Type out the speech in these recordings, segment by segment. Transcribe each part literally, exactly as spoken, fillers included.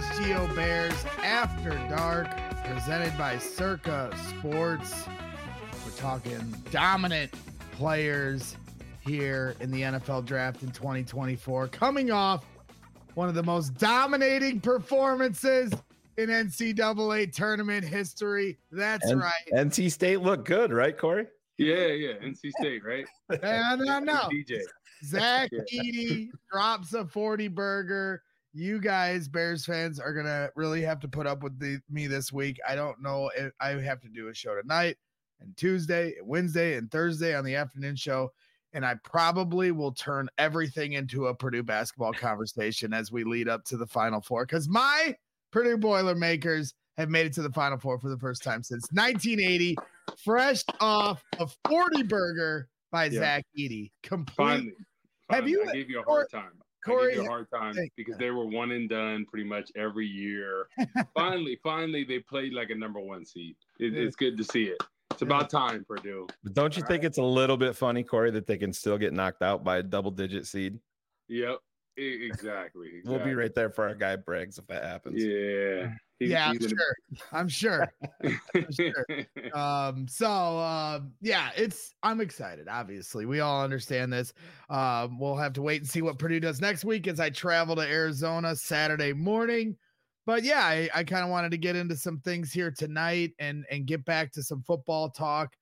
H G O Bears After Dark, presented by Circa Sports. We're talking dominant players here in the N F L draft in twenty twenty-four, coming off one of the most dominating performances in N C double A tournament history. That's N- right. N C State looked good, right, Corey? Yeah, yeah, N C State, right? No, no, no. D J. Zach Yeah. Edey drops a forty burger. You guys, Bears fans, are going to really have to put up with the, me this week. I don't know if I have to do a show tonight and Tuesday, and Wednesday, and Thursday on the afternoon show. And I probably will turn everything into a Purdue basketball conversation as we lead up to the Final Four, because my Purdue Boilermakers have made it to the Final Four for the first time since nineteen eighty, fresh off a forty burger by Yeah. Zach Edey. Complete. Finally, Have finally. you- I gave you a hard time. Corey, I gave you a hard time thank because you. they were one and done pretty much every year. finally, finally, they played like a number one seed. It, it's good to see it. It's about time, Purdue. But don't you All think it's a little bit funny, Corey, that they can still get knocked out by a double-digit seed? Yep, e- exactly, exactly. We'll be right there for our guy Briggs if that happens. Yeah. He- Yeah, I'm he's in- sure. I'm sure. sure. Um, so uh, yeah, it's I'm excited. Obviously, we all understand this. Um, we'll have to wait and see what Purdue does next week as I travel to Arizona Saturday morning. But yeah, I, I kind of wanted to get into some things here tonight and and get back to some football talk.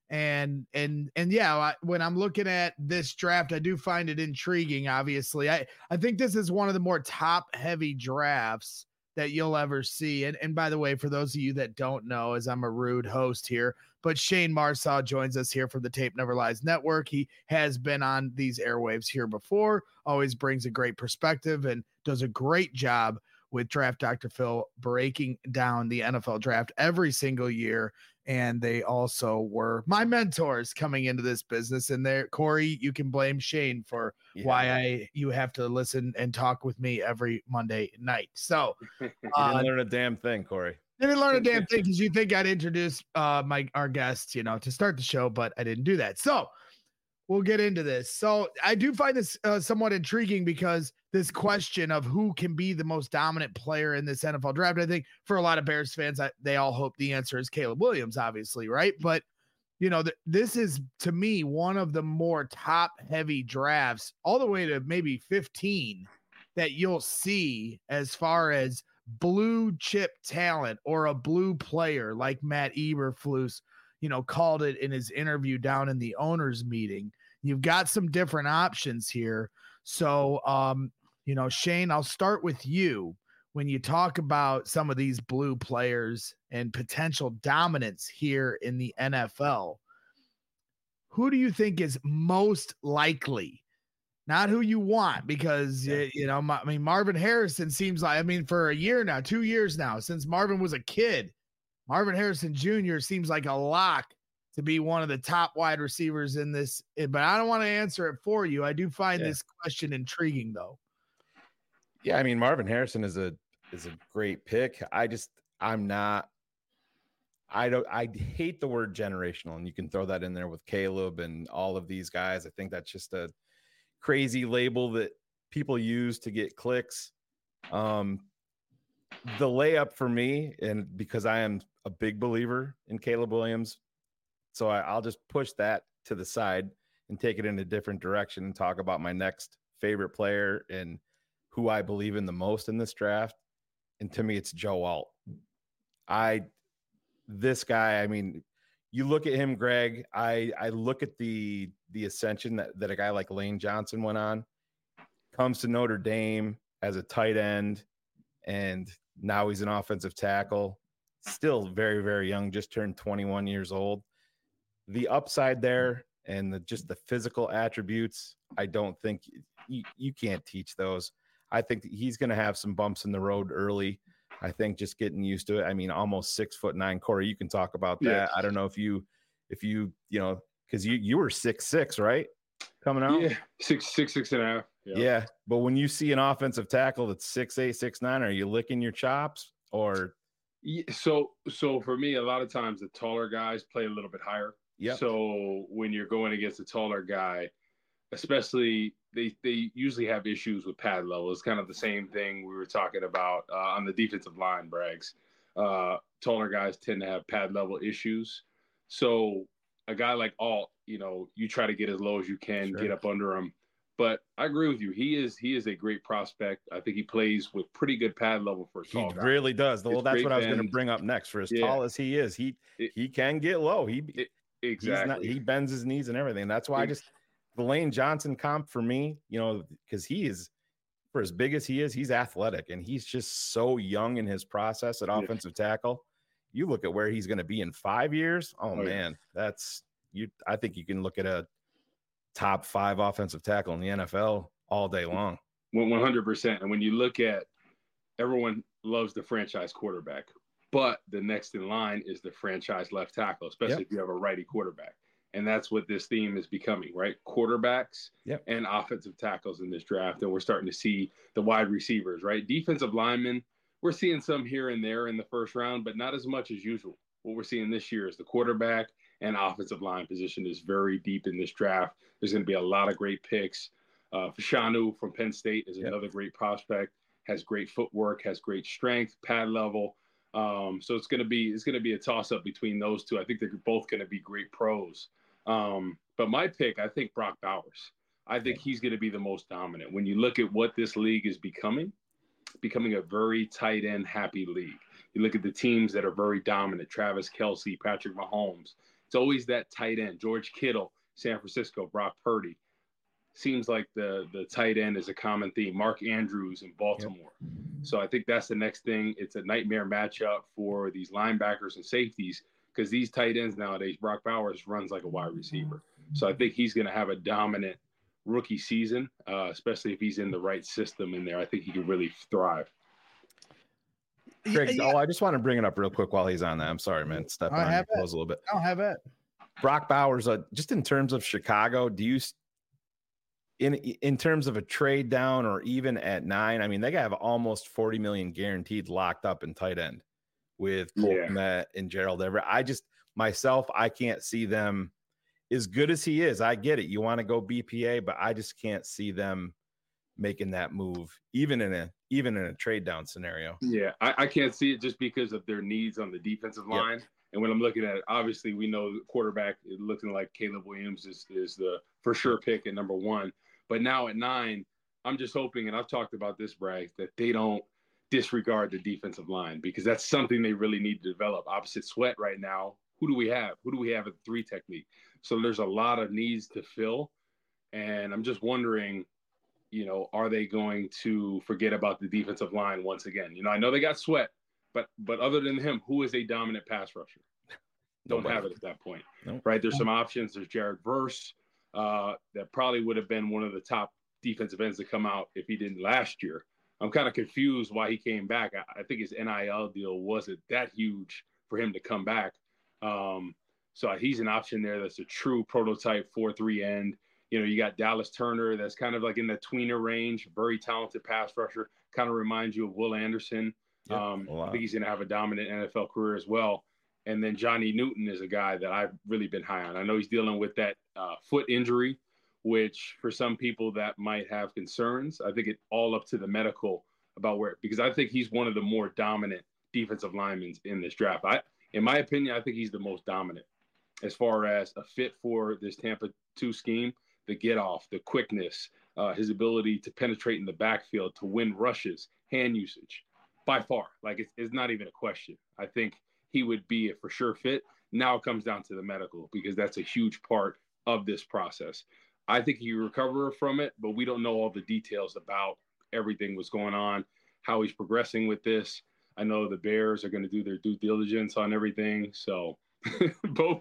And and and yeah, I, when I'm looking at this draft, I do find it intriguing. Obviously, I I think this is one of the more top heavy drafts that you'll ever see. And, and by the way, for those of you that don't know, as I'm a rude host here, but Shane Marsaw joins us here from the Tape Never Lies Network. He has been on these airwaves here before, always brings a great perspective and does a great job with Draft Doctor Phil breaking down the N F L draft every single year. And they also were my mentors coming into this business. And there, Corey, you can blame Shane for Yeah. why I you have to listen and talk with me every Monday night. So You uh, didn't learn a damn thing, Corey. didn't learn a damn thing because you think I'd introduce uh my our guests, you know, to start the show, but I didn't do that. So we'll get into this. So I do find this uh, somewhat intriguing because this question of who can be the most dominant player in this N F L draft, I think for a lot of Bears fans, I, they all hope the answer is Caleb Williams, obviously, right? But you know, th- this is to me one of the more top heavy drafts, all the way to maybe fifteen, that you'll see as far as blue chip talent or a blue player like Matt Eberflus, you know, called it in his interview down in the owners meeting. You've got some different options here. So, um, you know, Shane, I'll start with you. When you talk about some of these blue players and potential dominance here in the N F L, who do you think is most likely? Not who you want, because, Yeah. you know, I mean, Marvin Harrison seems like, I mean, for a year now, two years now, since Marvin was a kid, Marvin Harrison Junior seems like a lock to be one of the top wide receivers in this. But I don't want to answer it for you. I do find Yeah. this question intriguing, though. Yeah, I mean, Marvin Harrison is a is a great pick. I just I'm not I don't I hate the word generational, and you can throw that in there with Caleb and all of these guys. I think that's just a crazy label that people use to get clicks. Um the layup for me, and because I am a big believer in Caleb Williams, so I, I'll just push that to the side and take it in a different direction and talk about my next favorite player and who I believe in the most in this draft. And to me, it's Joe Alt. I, this guy, I mean, you look at him, Greg, I, I look at the, the ascension that, that a guy like Lane Johnson went on, comes to Notre Dame as a tight end, and now he's an offensive tackle, still very, very young, just turned twenty-one years old. The upside there and the, just the physical attributes, I don't think you, you can't teach those. I think that he's going to have some bumps in the road early. I think just getting used to it. I mean, almost six foot nine. Corey, you can talk about that. Yeah. I don't know if you, if you, you know, because you you were six six, right? Coming out. Yeah, six, six, six and a half. Yeah. Yeah. But when you see an offensive tackle that's six eight, six nine, are you licking your chops or? Yeah, so, so for me, a lot of times the taller guys play a little bit higher. Yep. So when you're going against a taller guy, especially they they usually have issues with pad level. It's kind of the same thing we were talking about uh, on the defensive line, Braggs. Uh, taller guys tend to have pad level issues. So a guy like Alt, you know, you try to get as low as you can, sure. get up under him. But I agree with you. He is he is a great prospect. I think he plays with pretty good pad level for a tall He guy. really does. Well, it's that's what I was bend. going to bring up next. For as yeah. tall as he is, he it, he can get low. He it, exactly. Not, he bends his knees and everything. That's why I just the Lane Johnson comp for me, you know, because he is for as big as he is, he's athletic and he's just so young in his process at offensive yeah. tackle. You look at where he's going to be in five years. Oh, oh man, yeah. that's you. I think you can look at a top five offensive tackle in the N F L all day long. one hundred percent. And when you look at everyone loves the franchise quarterback, but the next in line is the franchise left tackle, especially yep. if you have a righty quarterback. And that's what this theme is becoming, right? Quarterbacks yep. and offensive tackles in this draft. And we're starting to see the wide receivers, right? Defensive linemen, we're seeing some here and there in the first round, but not as much as usual. What we're seeing this year is the quarterback and offensive line position is very deep in this draft. There's going to be a lot of great picks. Uh, Fashanu from Penn State is yep. another great prospect, has great footwork, has great strength, pad level. Um, so it's going to be it's going to be a toss-up between those two. I think they're both going to be great pros. Um, but my pick, I think Brock Bowers. I think he's going to be the most dominant. When you look at what this league is becoming, becoming a very tight end happy league. You look at the teams that are very dominant, Travis Kelce, Patrick Mahomes. It's always that tight end, George Kittle, San Francisco, Brock Purdy. Seems like the the tight end is a common theme. Mark Andrews in Baltimore. Yep. So I think that's the next thing. It's a nightmare matchup for these linebackers and safeties because these tight ends nowadays, Brock Bowers runs like a wide receiver. So I think he's going to have a dominant rookie season, uh, especially if he's in the right system in there. I think he could really thrive. Craig, yeah. oh, I just want to bring it up real quick while he's on that. I'm sorry, man. Stepping on your toes a little bit. I'll have it. Brock Bowers, uh, just in terms of Chicago, do you in in terms of a trade down or even at nine? I mean, they have almost forty million guaranteed locked up in tight end with Cole yeah. Kmet and Gerald Everett. I just myself, I can't see them as good as he is. I get it. You want to go B P A, but I just can't see them making that move, even in a even in a trade down scenario. Yeah, I, I can't see it just because of their needs on the defensive line. Yep. And when I'm looking at it, obviously we know the quarterback is looking like Caleb Williams is, is the for sure pick at number one. But now at nine, I'm just hoping, and I've talked about this, Bragg, that they don't disregard the defensive line because that's something they really need to develop. Opposite Sweat right now, who do we have? Who do we have at the three technique? So there's a lot of needs to fill. And I'm just wondering, you know, are they going to forget about the defensive line once again? You know, I know they got Sweat, but but other than him, who is a dominant pass rusher? Don't Nobody. have it at that point, nope. right? There's some options. There's Jared Verse. Uh, that probably would have been one of the top defensive ends to come out if he didn't last year. I'm kind of confused why he came back. I, I think his N I L deal wasn't that huge for him to come back. Um, so he's an option there that's a true prototype four three end. You know, you got Dallas Turner that's kind of like in the tweener range, very talented pass rusher, kind of reminds you of Will Anderson. Yep, um, I think he's going to have a dominant N F L career as well. And then Johnny Newton is a guy that I've really been high on. I know he's dealing with that uh, foot injury, which for some people that might have concerns. I think it's all up to the medical about where, because I think he's one of the more dominant defensive linemen in this draft. I, in my opinion, I think he's the most dominant as far as a fit for this Tampa two scheme, the get off, the quickness, uh, his ability to penetrate in the backfield, to win rushes, hand usage, by far. Like it's, it's not even a question. I think he would be a for sure fit. Now it comes down to the medical because that's a huge part of this process. I think he recover from it, but we don't know all the details about everything that's going on, how he's progressing with this. I know the Bears are going to do their due diligence on everything. So both.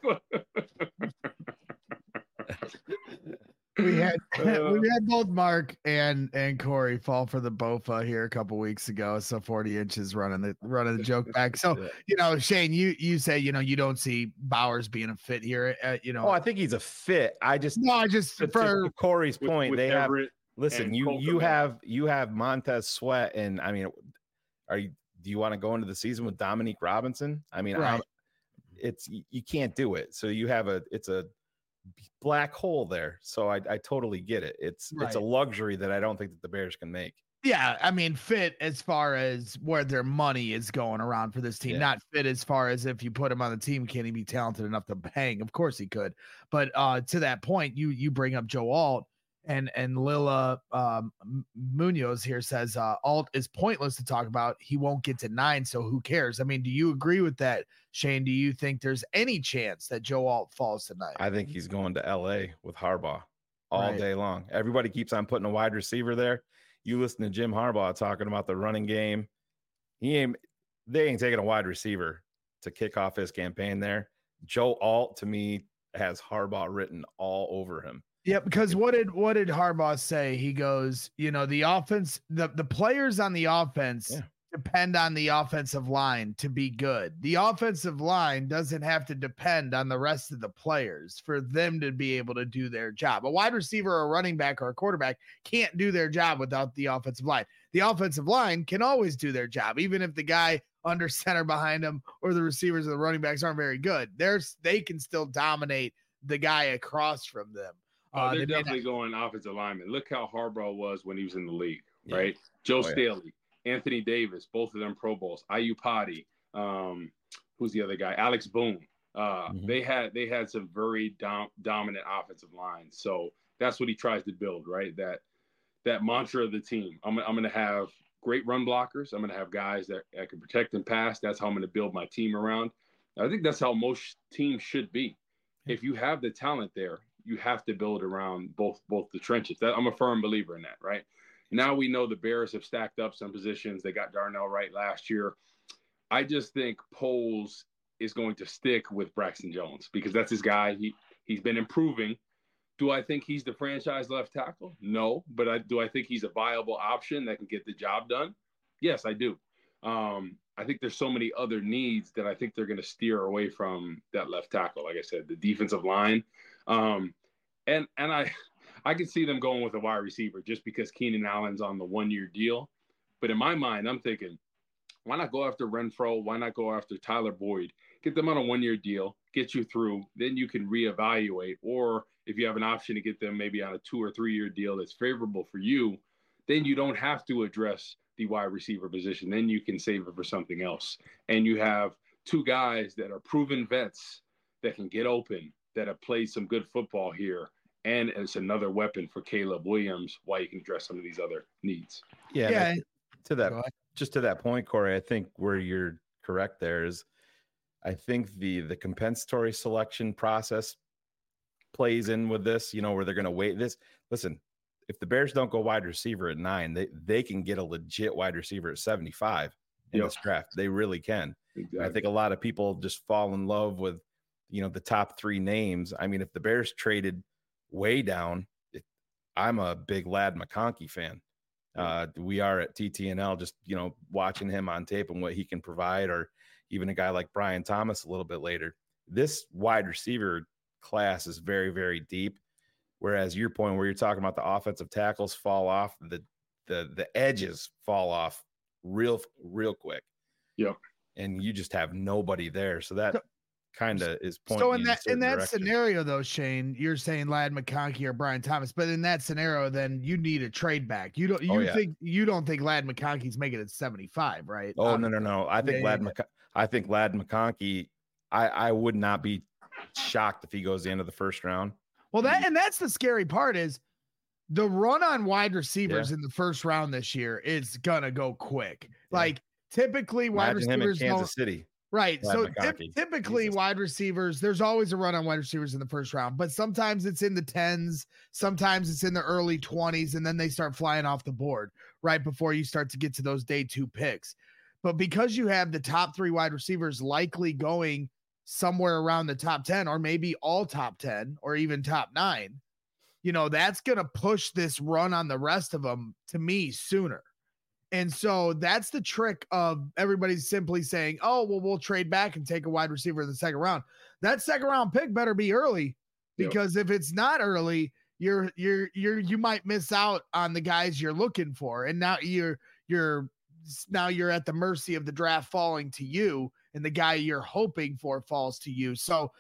We had uh, we had both Mark and and Corey fall for the Bofa here a couple weeks ago. So forty inches running the running the joke back. So yeah. you know, Shane, you you say you know you don't see Bowers being a fit here. Uh, you know, oh, I think he's a fit. I just no, I just to, for to Corey's with, point, with they Everett have listen. You you have you have Montez Sweat, and I mean, are you do you want to go into the season with Dominique Robinson? I mean, right. it's you can't do it. So you have a it's a black hole there. So I, I totally get it. It's Right. it's a luxury that I don't think that the Bears can make. Yeah, I mean, fit as far as where their money is going around for this team, Yeah. not fit as far as if you put him on the team, can he be talented enough to hang? Of course he could. But uh, to that point, you you bring up Joe Alt, and and Lila um, Munoz here says uh, Alt is pointless to talk about. He won't get to nine, so who cares? I mean, do you agree with that, Shane? Do you think there's any chance that Joe Alt falls tonight? I think he's going to L A with Harbaugh all Right. day long. Everybody keeps on putting a wide receiver there. You listen to Jim Harbaugh talking about the running game. He ain't, they ain't taking a wide receiver to kick off his campaign there. Joe Alt, to me, has Harbaugh written all over him. Yeah, because what did what did Harbaugh say? He goes, you know, the offense, the, the players on the offense Yeah. depend on the offensive line to be good. The offensive line doesn't have to depend on the rest of the players for them to be able to do their job. A wide receiver, or a running back, or a quarterback can't do their job without the offensive line. The offensive line can always do their job, even if the guy under center behind them or the receivers or the running backs aren't very good. There's they can still dominate the guy across from them. Oh, Uh, they're they may definitely going offensive lineman. Look how Harbaugh was when he was in the league, Yeah. right? Joe Oh, yeah. Staley, Anthony Davis, both of them Pro Bowls. Ayupati, um, who's the other guy? Alex Boone. Uh, Mhm. They had they had some very dom- dominant offensive lines. So that's what he tries to build, right? That that mantra of the team. I'm I'm going to have great run blockers. I'm going to have guys that, that can protect and pass. That's how I'm going to build my team around. I think that's how most teams should be. If you have the talent there, you have to build around both both the trenches. That, I'm a firm believer in that, right? Now we know the Bears have stacked up some positions. They got Darnell Wright last year. I just think Poles is going to stick with Braxton Jones because that's his guy. He he's been improving. Do I think he's the franchise left tackle? No, but I do I think he's a viable option that can get the job done? Yes, I do. Um, I think there's so many other needs that I think they're going to steer away from that left tackle. Like I said, the defensive line, um, and and I I can see them going with a wide receiver just because Keenan Allen's on the one year deal. But in my mind, I'm thinking, why not go after Renfro? Why not go after Tyler Boyd? Get them on a one year deal, get you through. Then you can reevaluate. Or if you have an option to get them maybe on a two or three year deal that's favorable for you, then you don't have to address the wide receiver position. Then you can save it for something else. And you have two guys that are proven vets that can get open, that have played some good football here. And it's another weapon for Caleb Williams while you can address some of these other needs. Yeah. Yeah. and I- to that, Go ahead. just to that point, Corey, I think where you're correct there is I think the the compensatory selection process plays in with this, you know, where they're going to wait this. Listen, if the Bears don't go wide receiver at nine, they, they can get a legit wide receiver at seventy-five in Yep. this draft. They really can. Exactly. I think a lot of people just fall in love with, you know, the top three names. I mean, if the Bears traded way down, it, I'm a big Lad McConkey fan. Uh, we are at T T N L, just, you know, watching him on tape and what he can provide, or even a guy like Brian Thomas a little bit later. This wide receiver class is very, very deep. Whereas your point where you're talking about the offensive tackles fall off, the the the edges fall off real, real quick. Yep. And you just have nobody there. So that kind of is pointing. So in you that a in certain that direction. scenario, though, Shane, you're saying Lad McConkey or Brian Thomas, but in that scenario, then you need a trade back. You don't you Oh, yeah. think you don't think Lad McConkey's making it seventy-five, right? Oh, Um, no, no, no. I think yeah, Lad yeah. McC- I think Lad McConkey, I, I would not be shocked if he goes the end of the first round. Well, that and that's the scary part is the run on wide receivers Yeah. in the first round this year is gonna go quick. Like typically wide Imagine him in receivers don't Kansas City. right. Lad So typ- McConkey. typically Jesus. wide receivers, there's always a run on wide receivers in the first round, but sometimes it's in the tens, sometimes it's in the early twenties, and then they start flying off the board right before you start to get to those day two picks. But because you have the top three wide receivers likely going somewhere around the top ten, or maybe all top ten, or even top nine, you know, that's going to push this run on the rest of them to me sooner. And so that's the trick of everybody's simply saying, oh, well, we'll trade back and take a wide receiver in the second round. That second round pick better be early, Yep. because if it's not early, you're, you're, you're, you might miss out on the guys you're looking for. And now you're, you're, now you're at the mercy of the draft falling to you, and the guy you're hoping for falls to you. So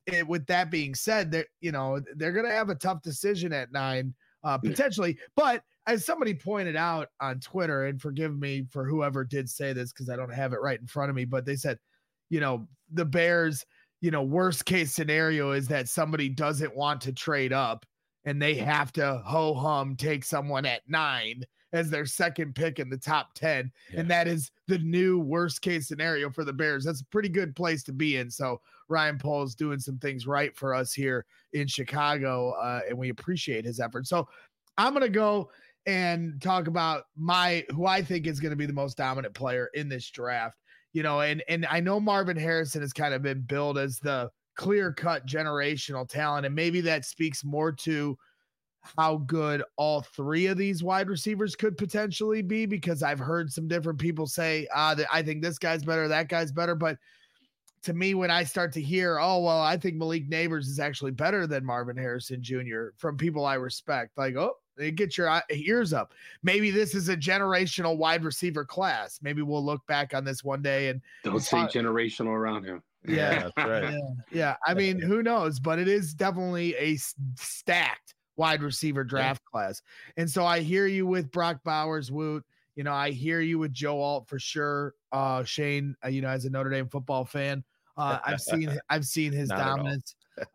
it, with that being said, they're, you know, they're going to have a tough decision at nine, uh, potentially. But as somebody pointed out on Twitter, and forgive me for whoever did say this because I don't have it right in front of me, but they said, you know, the Bears, you know, worst case scenario is that somebody doesn't want to trade up and they have to ho hum take someone at nine as their second pick in the top ten. Yeah. And that is the new worst case scenario for the Bears. That's a pretty good place to be in. So Ryan Poles doing some things right for us here in Chicago. Uh, and we appreciate his efforts. So I'm going to go and talk about my, who I think is going to be the most dominant player in this draft, you know, and, and I know Marvin Harrison has kind of been billed as the clear cut generational talent. And maybe that speaks more to how good all three of these wide receivers could potentially be, because I've heard some different people say, ah, that I think this guy's better, that guy's better. But to me, when I start to hear, oh, well, I think Malik Nabers is actually better than Marvin Harrison Junior from people I respect, like, oh, get your ears up. Maybe this is a generational wide receiver class. Maybe we'll look back on this one day and don't say uh, generational around him. Yeah, that's right. Yeah, yeah. I mean, who knows? But it is definitely a stacked wide receiver draft yeah. class. And so I hear you with Brock Bowers, Woot. You know, I hear you with Joe Alt for sure. Uh, Shane, uh, you know, as a Notre Dame football fan, uh, I've seen I've seen his dominance.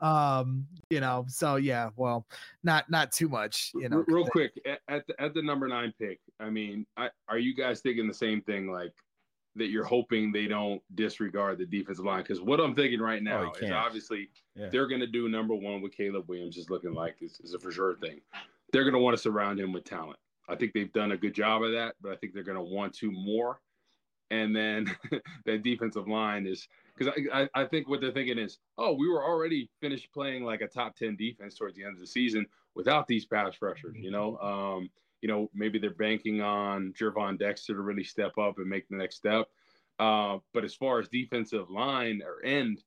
um, you know, so yeah, well, not not too much. You know, real quick at the, at the number nine pick. I mean, I, are you guys thinking the same thing? Like, that you're hoping they don't disregard the defensive line? Because what I'm thinking right now oh, is obviously yeah. they're going to do number one with Caleb Williams is looking like is, is a for sure thing. They're going to want to surround him with talent. I think they've done a good job of that, but I think they're going to want to more. And then that defensive line is because I, I, I think what they're thinking is, oh, we were already finished playing like a top ten defense towards the end of the season without these pass rushers, you know? Um, You know, maybe they're banking on Gervon Dexter to really step up and make the next step. Uh, but as far as defensive line or end,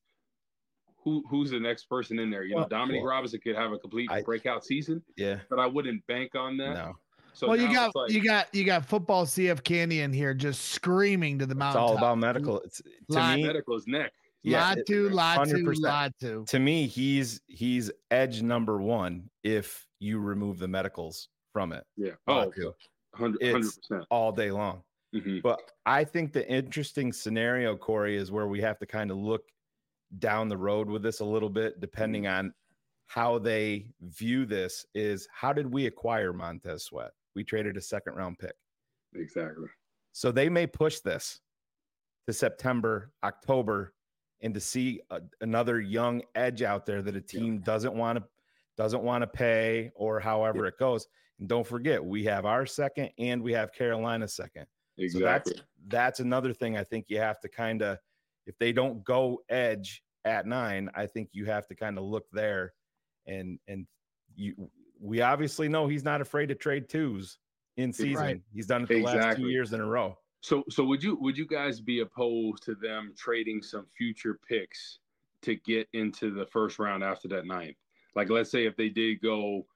who who's the next person in there? You know, well, Dominique well, Robinson could have a complete I, breakout season. Yeah, but I wouldn't bank on that. No. So well, you got like, you got you got football C F Canyon here just screaming to the mountain. It's all about medical. It's to lot, me medical is neck. Yeah, lot to, lot to, lot to. To me, he's he's edge number one if you remove the medicals from it. Yeah. Oh, one hundred percent all day long. Mm-hmm. But I think the interesting scenario, Corey, is where we have to kind of look down the road with this a little bit, depending mm-hmm. on how they view this, is how did we acquire Montez Sweat? We traded a second round pick. Exactly. So they may push this to September, October, and to see a, another young edge out there that a team yeah. doesn't want to doesn't want to pay, or however yeah. it goes. And don't forget, we have our second and we have Carolina's second. Exactly. So that's that's another thing I think you have to kind of, if they don't go edge at nine, I think you have to kind of look there, and and you we obviously know he's not afraid to trade twos in season. Right. He's done it the exactly. last two years in a row. So so would you would you guys be opposed to them trading some future picks to get into the first round after that ninth? Like, let's say if they did go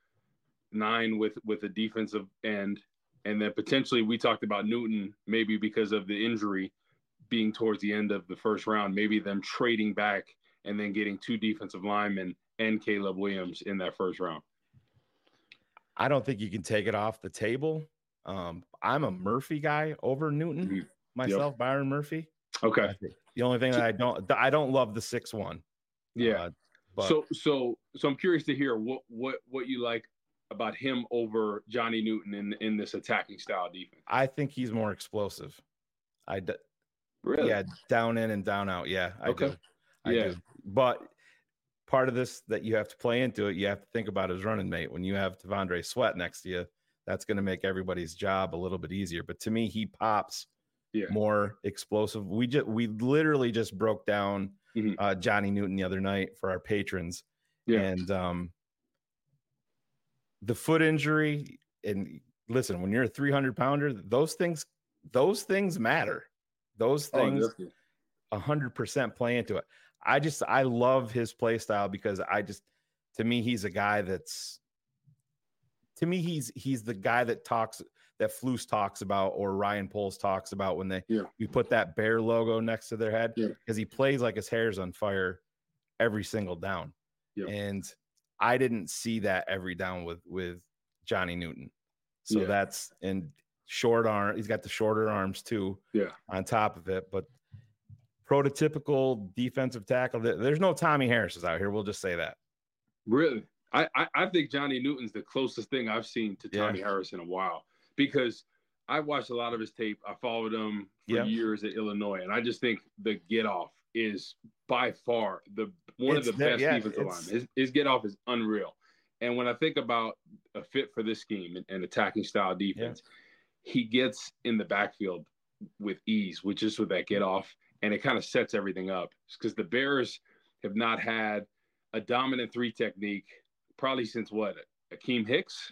nine with with a defensive end, and then potentially we talked about Newton, maybe because of the injury being towards the end of the first round, maybe them trading back and then getting two defensive linemen and Caleb Williams in that first round. I don't think you can take it off the table. Um, I'm a Murphy guy over Newton mm-hmm. myself, yep. Byron Murphy. Okay. The only thing that I don't, I don't love the six one. Yeah. Uh, but so, so, so I'm curious to hear what, what, what you like about him over Johnny Newton in, in this attacking style defense. I think he's more explosive. I, d- really? Yeah. Down in and down out. Yeah. I okay. do. I yeah. do. But part of this that you have to play into it, you have to think about his running mate. When you have T'Vondre Sweat next to you, that's going to make everybody's job a little bit easier. But to me, he pops yeah. more explosive. We just, we literally just broke down mm-hmm. uh, Johnny Newton the other night for our patrons. Yeah. And um, the foot injury, and listen, when you're a three hundred pounder, those things, those things matter. Those things a hundred percent play into it. I just, I love his play style because I just, to me, he's a guy that's, to me, he's, he's the guy that talks, that Flus talks about, or Ryan Poles talks about when they, yeah. we put that bear logo next to their head, because yeah. he plays like his hair's on fire every single down. Yep. And I didn't see that every down with with Johnny Newton. So Yeah. that's and short arm. He's got the shorter arms too. Yeah. On top of it, but prototypical defensive tackle. There's no Tommy Harris's out here. We'll just say that. Really, I I, I think Johnny Newton's the closest thing I've seen to Tommy Yeah. Harris in a while, because I watched a lot of his tape. I followed him for Yeah. years at Illinois, and I just think the get off is by far the one It's of the there, best yeah, defensive it's- linemen. His, his get off is unreal. And when I think about a fit for this scheme and, and attacking style defense, he gets in the backfield with ease, with just with that get off, and it kind of sets everything up. Because the Bears have not had a dominant three technique probably since what, Akeem Hicks?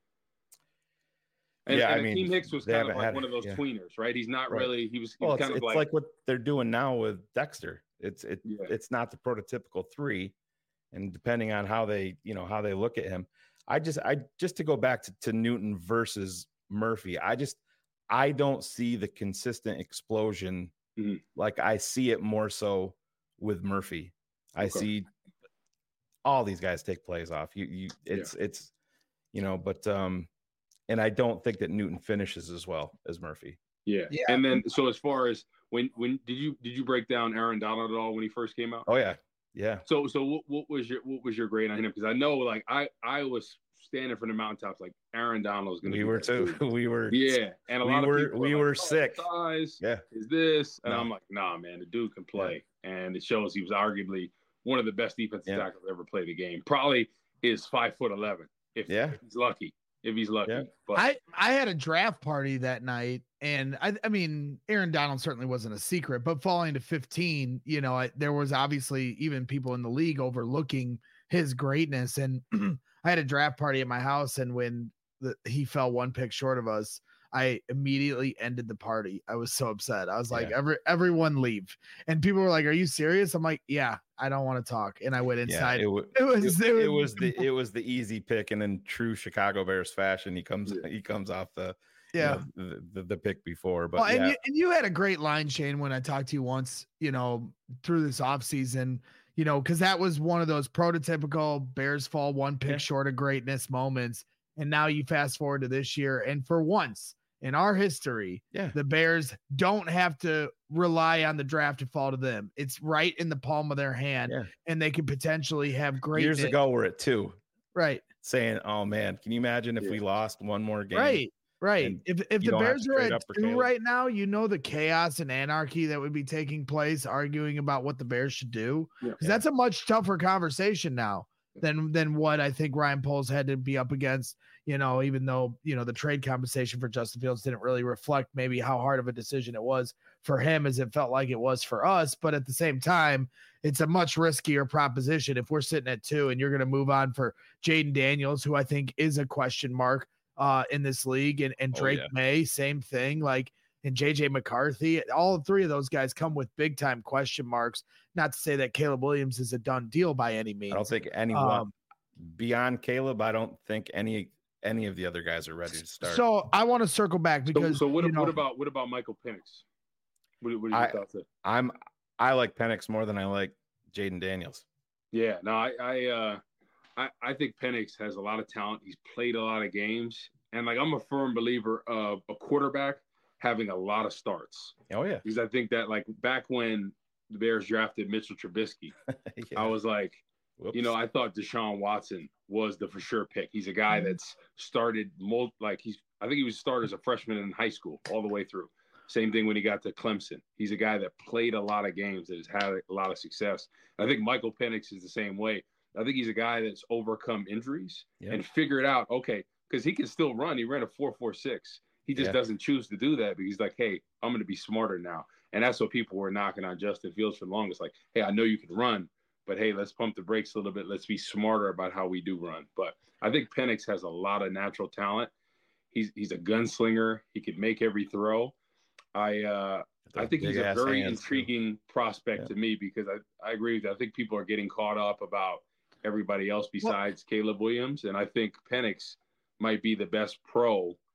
And, Yeah, and I mean, Akeem Hicks was they kind of haven't like had- one of those yeah. tweeners, right? He's not Right. really. He was, he Well, was it's, kind of it's like, like, what they're doing now with Dexter. It's it Yeah. it's not the prototypical three, and depending on how they you know how they look at him, I just I just to go back to, to Newton versus Murphy. I just I don't see the consistent explosion Mhm. like I see it more so with Murphy. I Okay. see all these guys take plays off. You you it's it's you know, but um, and I don't think that Newton finishes as well as Murphy. yeah. Yeah. And then, so as far as when when did you did you break down Aaron Donald at all when he first came out? Oh yeah, yeah. So so what, what was your what was your grade on him? Because I know, like, I I was standing from the mountaintops like Aaron Donald's going to. We were too. We were. Yeah, and a we lot were, of people we were, were like, oh, sick. Size Yeah. is this, and No. I'm like, nah, man, the dude can play, and it shows he was arguably one of the best defensive Yeah. tackles ever played the game. Probably is five foot eleven if, Yeah. if he's lucky. If he's lucky, Yeah. but I, I had a draft party that night, and I, I mean, Aaron Donald certainly wasn't a secret, but falling to fifteen, you know, I, there was obviously even people in the league overlooking his greatness. And I had a draft party at my house, and when the, he fell one pick short of us, I immediately ended the party. I was so upset. I was like, Yeah. every everyone leave. And people were like, "Are you serious?" I'm like, "Yeah, I don't want to talk." And I went inside. Yeah, it, w- it was it, it was, it was the it was the easy pick, and in true Chicago Bears fashion, he comes Yeah. he comes off the yeah. you know, the, the the pick before. But Well, and yeah, you and you had a great line, Shane, when I talked to you once, you know, through this offseason, you know, because that was one of those prototypical Bears fall one pick Yeah. short of greatness moments. And now you fast forward to this year, and for once in our history, yeah, the Bears don't have to rely on the draft to fall to them. It's right in the palm of their hand, Yeah. and they could potentially have great years ago we're at two, right? saying, "Oh man, can you imagine if Yeah. we lost one more game?" Right. Right. And If if you the don't have Bears to are trade at up for two Caleb. right now, you know the chaos and anarchy that would be taking place arguing about what the Bears should do. Yeah. Because that's a much tougher conversation now than than what I think Ryan Poles had to be up against, you know, even though, you know, the trade compensation for Justin Fields didn't really reflect maybe how hard of a decision it was for him as it felt like it was for us. But at the same time, it's a much riskier proposition if we're sitting at two and you're going to move on for Jaden Daniels, who I think is a question mark uh, in this league, and, and Oh, Drake yeah. May, same thing, like, and J J McCarthy. All three of those guys come with big time question marks. Not to say that Caleb Williams is a done deal by any means. I don't think anyone Um, beyond Caleb. I don't think any any of the other guys are ready to start. So I want to circle back so, because so what, you know, what about what about Michael Penix? What, what are your I- thoughts there? I'm I like Penix more than I like Jaden Daniels. Yeah, no, I I, uh, I I think Penix has a lot of talent. He's played a lot of games, and like I'm a firm believer of a quarterback having a lot of starts, Oh yeah, because I think that, like, back when the Bears drafted Mitchell Trubisky, yeah. I was like, Whoops. you know, I thought Deshaun Watson was the for sure pick. He's a guy that's started mul- like he's I think he was started as a freshman in high school all the way through. Same thing when he got to Clemson. He's a guy that played a lot of games, that has had a lot of success. I think Michael Penix is the same way. I think he's a guy that's overcome injuries Yeah. and figured out, okay, because he can still run. He ran a four four six. He just Yeah. doesn't choose to do that because he's like, hey, I'm going to be smarter now. And that's what people were knocking on Justin Fields for the longest. Like, hey, I know you can run, but hey, let's pump the brakes a little bit. Let's be smarter about how we do run. But I think Penix has a lot of natural talent. He's he's a gunslinger. He could make every throw. I uh, I think he's a Big-ass very hands, too. intriguing prospect Yeah. to me, because I, I agree with you. I think people are getting caught up about everybody else besides Caleb Williams. And I think Penix might be the best pro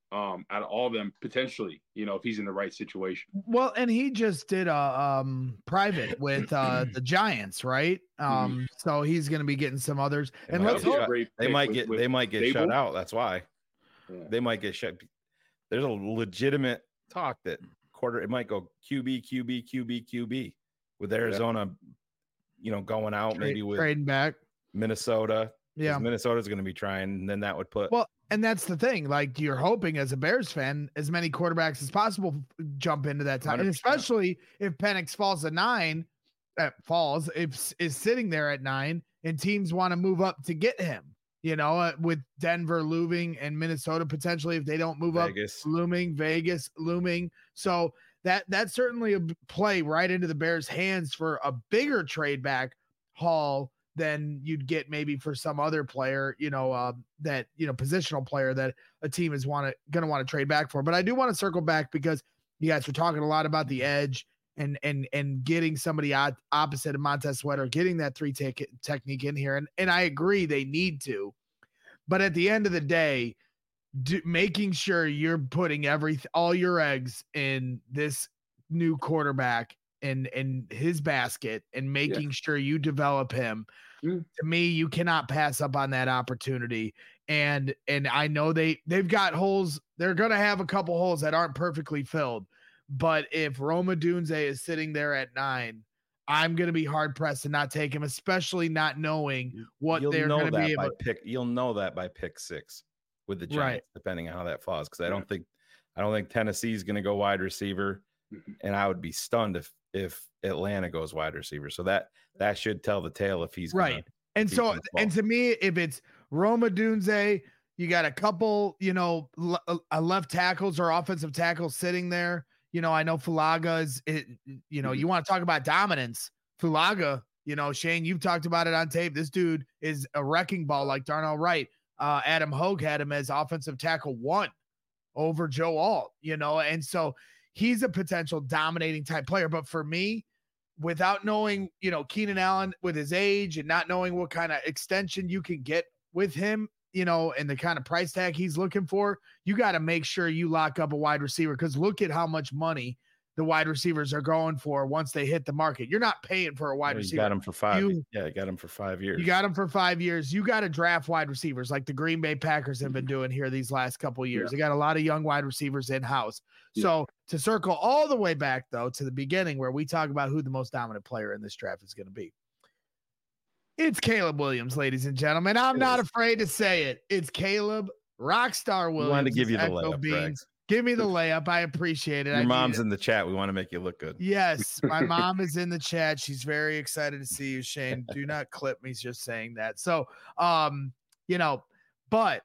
um, out of all of them potentially, you know, if he's in the right situation. Well, and he just did a um, private with uh, the Giants, right? Um, mm-hmm. So he's going to be getting some others, they and let's hope they might with, get with they might get Dable. shut out. That's why yeah. they might get shut. There's a legitimate talk that quarter it might go Q B, Q B, Q B, Q B with Arizona, yeah. you know, going out Trade, maybe with trading back Minnesota. Yeah, Minnesota's going to be trying, and then that would put well. And that's the thing. Like you're hoping as a Bears fan, as many quarterbacks as possible jump into that time, and especially if Penix falls to nine, uh, falls if is sitting there at nine, and teams want to move up to get him. You know, uh, with Denver looming and Minnesota potentially if they don't move Vegas. up, looming, Vegas looming. So that that's certainly a play right into the Bears' hands for a bigger trade back haul than you'd get maybe for some other player, you know, uh, that, you know, positional player that a team is want to going to want to trade back for. But I do want to circle back because you guys were talking a lot about the edge and, and, and getting somebody op- opposite of Montez Sweat or getting that three take technique in here. And, and I agree they need to, but at the end of the day, do, making sure you're putting every, all your eggs in this new quarterback and, and his basket and making yeah. sure you develop him. To me, you cannot pass up on that opportunity. And and I know they they've got holes. They're gonna have a couple holes that aren't perfectly filled. But if Rome Odunze is sitting there at nine, I'm gonna be hard pressed to not take him, especially not knowing what you'll they're know gonna that be by able. Pick, you'll know that by pick six with the Giants, right. depending on how that falls. Because I don't think I don't think Tennessee's gonna go wide receiver, mm-hmm. and I would be stunned if if Atlanta goes wide receiver. So that that should tell the tale if he's right. Gonna, and so and to me, if it's Rome Odunze, you got a couple, you know, l- left tackles or offensive tackles sitting there. You know, I know Fulaga is, it, you know, mm-hmm. you want to talk about dominance. Fulaga, you know, Shane, you've talked about it on tape. This dude is a wrecking ball like Darnell Wright. Uh, Adam Hogue had him as offensive tackle one over Joe Alt, you know, and so he's a potential dominating type player. But for me, without knowing, you know, Keenan Allen with his age and not knowing what kind of extension you can get with him, you know, and the kind of price tag he's looking for, you got to make sure you lock up a wide receiver because look at how much money the wide receivers are going for once they hit the market. You're not paying for a wide yeah, receiver. You got him for five. You, yeah, you got him for five years. You got him for five years. You got to draft wide receivers like the Green Bay Packers have been doing here these last couple of years. Yeah. They got a lot of young wide receivers in-house. Yeah. So to circle all the way back, though, to the beginning where we talk about who the most dominant player in this draft is going to be. It's Caleb Williams, ladies and gentlemen. I'm it not is. afraid to say it. It's Caleb Rockstar Williams. We wanted to give you the layup, Greg. Give me the layup. I appreciate it. Your I mom's in the chat. We want to make you look good. Yes, my mom is in the chat. She's very excited to see you, Shane. Do not clip me just saying that. So, um, you know, but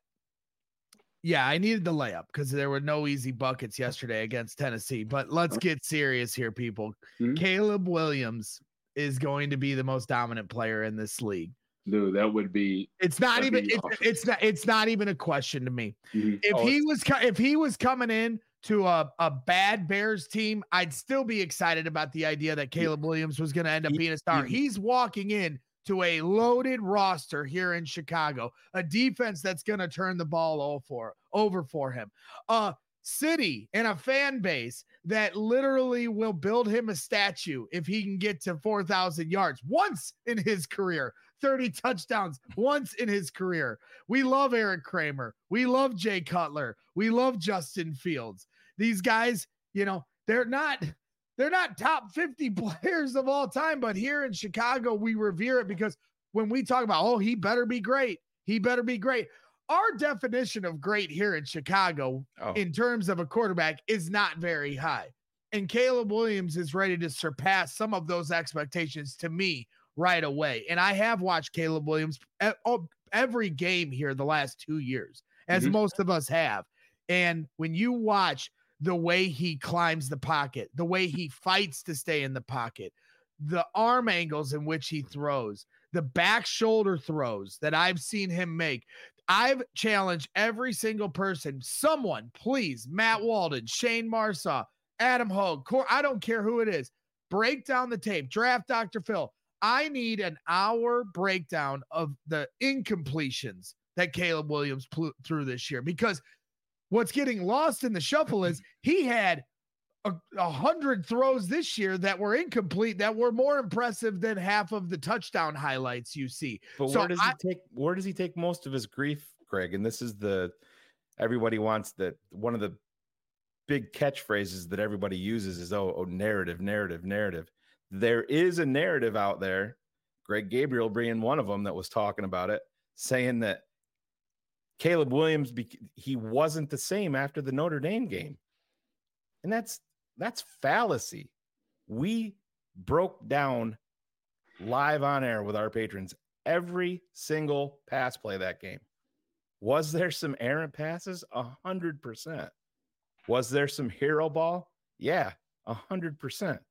yeah, I needed the layup because there were no easy buckets yesterday against Tennessee. But let's get serious here, people. Mm-hmm. Caleb Williams is going to be the most dominant player in this league. Dude, that would be. It's not even. It's, awesome. it's not. It's not even a question to me. Mm-hmm. If oh, he was, if he was coming in to a, a bad Bears team, I'd still be excited about the idea that Caleb Williams was going to end up being a star. He's walking in to a loaded roster here in Chicago, a defense that's going to turn the ball all for over for him, a city and a fan base that literally will build him a statue if he can get to four thousand yards once in his career. thirty touchdowns once in his career. We love Eric Kramer. We love Jay Cutler. We love Justin Fields. These guys, you know, they're not they're not top fifty players of all time, but here in Chicago, we revere it because when we talk about, oh, he better be great. He better be great. Our definition of great here in Chicago oh. in terms of a quarterback is not very high. And Caleb Williams is ready to surpass some of those expectations to me right away. And I have watched Caleb Williams every game here the last two years, as mm-hmm. most of us have. And when you watch the way he climbs the pocket, the way he fights to stay in the pocket, the arm angles in which he throws, the back shoulder throws that I've seen him make, I've challenged every single person, someone, please, Matt Walden, Shane Marsaw, Adam Hogue, Cor- I don't care who it is, break down the tape, draft Doctor Phil. I need an hour breakdown of the incompletions that Caleb Williams pl- threw this year because what's getting lost in the shuffle is he had a, a hundred throws this year that were incomplete, that were more impressive than half of the touchdown highlights you see. But so where does I, he take where does he take most of his grief, Greg? And this is the everybody wants that one of the big catchphrases that everybody uses is oh, oh narrative, narrative, narrative. There is a narrative out there, Greg Gabriel being one of them that was talking about it, saying that Caleb Williams, he wasn't the same after the Notre Dame game. And that's that's fallacy. We broke down live on air with our patrons every single pass play that game. Was there some errant passes? A hundred percent. Was there some hero ball? Yeah, a hundred percent.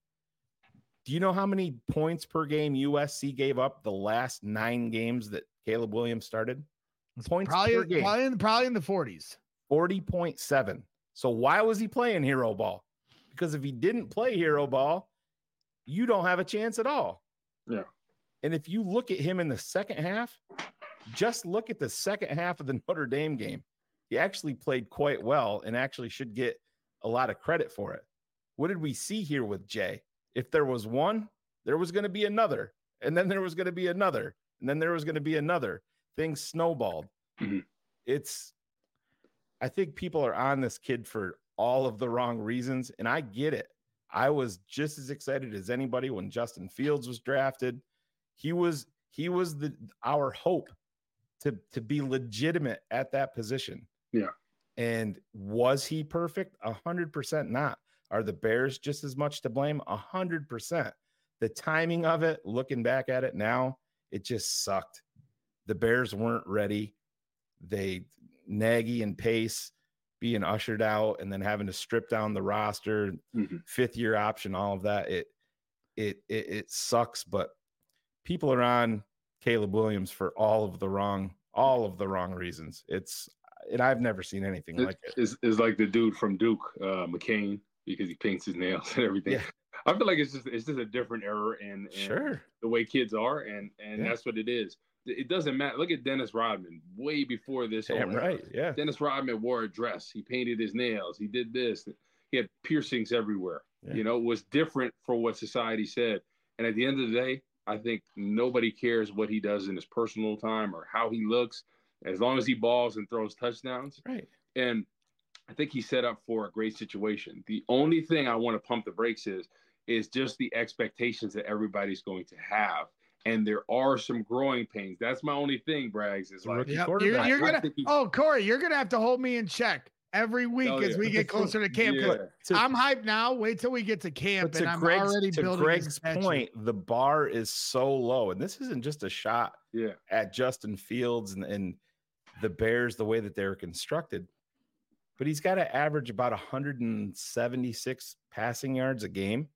Do you know how many points per game U S C gave up the last nine games that Caleb Williams started? It's points probably, per game. Probably in, probably in the forties. forty point seven. So why was he playing hero ball? Because if he didn't play hero ball, you don't have a chance at all. Yeah. And if you look at him in the second half, just look at the second half of the Notre Dame game. He actually played quite well and actually should get a lot of credit for it. What did we see here with Jay? If there was one, there was going to be another. And then there was going to be another. And then there was going to be another. Things snowballed. Mm-hmm. It's, I think people are on this kid for all of the wrong reasons. And I get it. I was just as excited as anybody when Justin Fields was drafted. He was, he was the, our hope to, to be legitimate at that position. Yeah. And was he perfect? A hundred percent not. Are the Bears just as much to blame? A hundred percent. The timing of it, looking back at it now, it just sucked. The Bears weren't ready. They, Nagy and Pace being ushered out and then having to strip down the roster, mm-hmm. fifth year option, all of that. It, it, it, it sucks, but people are on Caleb Williams for all of the wrong, all of the wrong reasons. It's, and I've never seen anything it, like it. It's, it's like the dude from Duke, uh, McCain, because he paints his nails and everything. Yeah. I feel like it's just, it's just a different era in, in Sure. the way kids are. And, and Yeah. that's what it is. It doesn't matter. Look at Dennis Rodman way before this. Damn right. Yeah. Dennis Rodman wore a dress. He painted his nails. He did this. He had piercings everywhere. Yeah. You know, it was different for what society said. And at the end of the day, I think nobody cares what he does in his personal time or how he looks, as long as he balls and throws touchdowns. Right. And I think he's set up for a great situation. The only thing I want to pump the brakes is, is just the expectations that everybody's going to have. And there are some growing pains. That's my only thing, Braggs. Is like yep. you're, you're gonna. Oh, Corey, you're gonna have to hold me in check every week oh, as yeah. we get closer to camp. Yeah. To, I'm hyped now. Wait till we get to camp, and I'm Greg's, already to building. Greg's point, the bar is so low, and this isn't just a shot yeah. at Justin Fields and, and the Bears the way that they're constructed. But he's got to average about one hundred seventy-six passing yards a game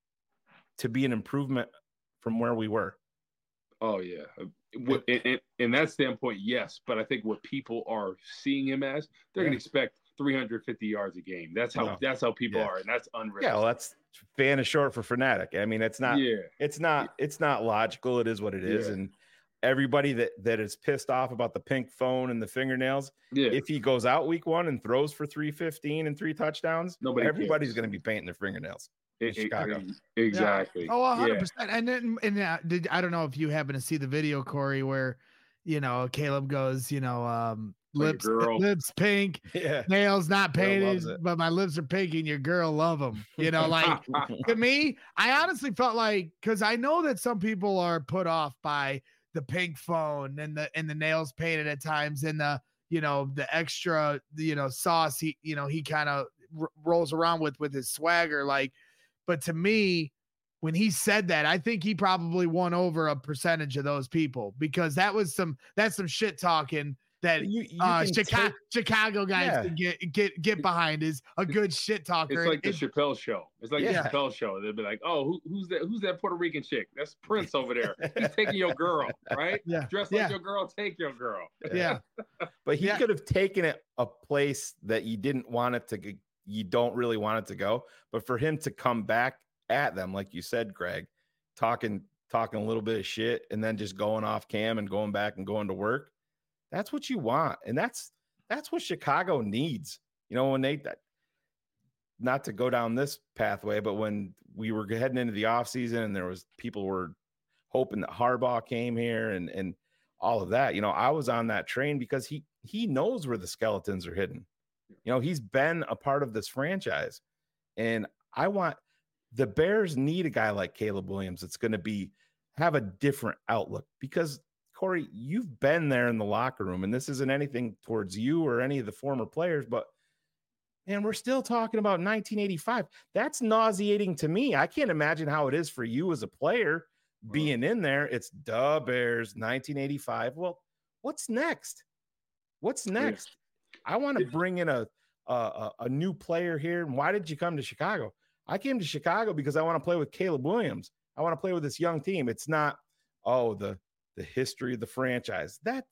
to be an improvement from where we were. Oh, yeah. In, in, in that standpoint, yes. But I think what people are seeing him as, they're yeah. going to expect three hundred fifty yards a game. That's how no. that's how people yeah. are, and that's unrealistic. Yeah, well, that's fan is short for fanatic. I mean, it's not. Yeah. It's not. It's not logical. It is what it is, yeah. and everybody that that is pissed off about the pink phone and the fingernails. Yeah. If he goes out week one and throws for three fifteen and three touchdowns, nobody. Everybody's going to be painting their fingernails. It, Chicago. It, exactly. Yeah. Oh, one hundred percent. Yeah. And then, and uh, did I don't know if you happen to see the video, Corey, where you know Caleb goes, you know, um, lips, lips pink, yeah. nails not painted, but my lips are pink, and your girl love them. You know, like to me, I honestly felt like because I know that some people are put off by the pink phone and the and the nails painted at times, and the you know the extra you know sauce he you know he kind of r- rolls around with with his swagger, like. But to me, when he said that, I think he probably won over a percentage of those people because that was some that's some shit talking that you, you uh, Chicago, take, Chicago guys yeah. can get get get behind is a good shit talker. It's like it, the Chappelle show. It's like yeah. the Chappelle show. They'll be like, "Oh, who, who's that? Who's that Puerto Rican chick? That's Prince over there. He's taking your girl, right? Yeah, dress yeah. like your girl, take your girl." Yeah, but he yeah. could have taken it a place that you didn't want it to. You don't really want it to go, but for him to come back at them, like you said, Greg, talking talking a little bit of shit and then just going off cam and going back and going to work. That's what you want. And that's that's what Chicago needs. You know, when they, not to go down this pathway, but when we were heading into the offseason and there was people were hoping that Harbaugh came here and, and all of that, you know, I was on that train because he, he knows where the skeletons are hidden. You know, he's been a part of this franchise, and I want the Bears need a guy like Caleb Williams that's going to be have a different outlook, because Corey, you've been there in the locker room, and this isn't anything towards you or any of the former players, but and we're still talking about nineteen eighty-five. That's nauseating to me. I can't imagine how it is for you as a player being in there. It's the Bears, nineteen eighty-five. Well, what's next? What's next? I want to bring in a, a a new player here. And why did you come to Chicago? I came to Chicago because I want to play with Caleb Williams. I want to play with this young team. It's not, oh, the the history of the franchise. That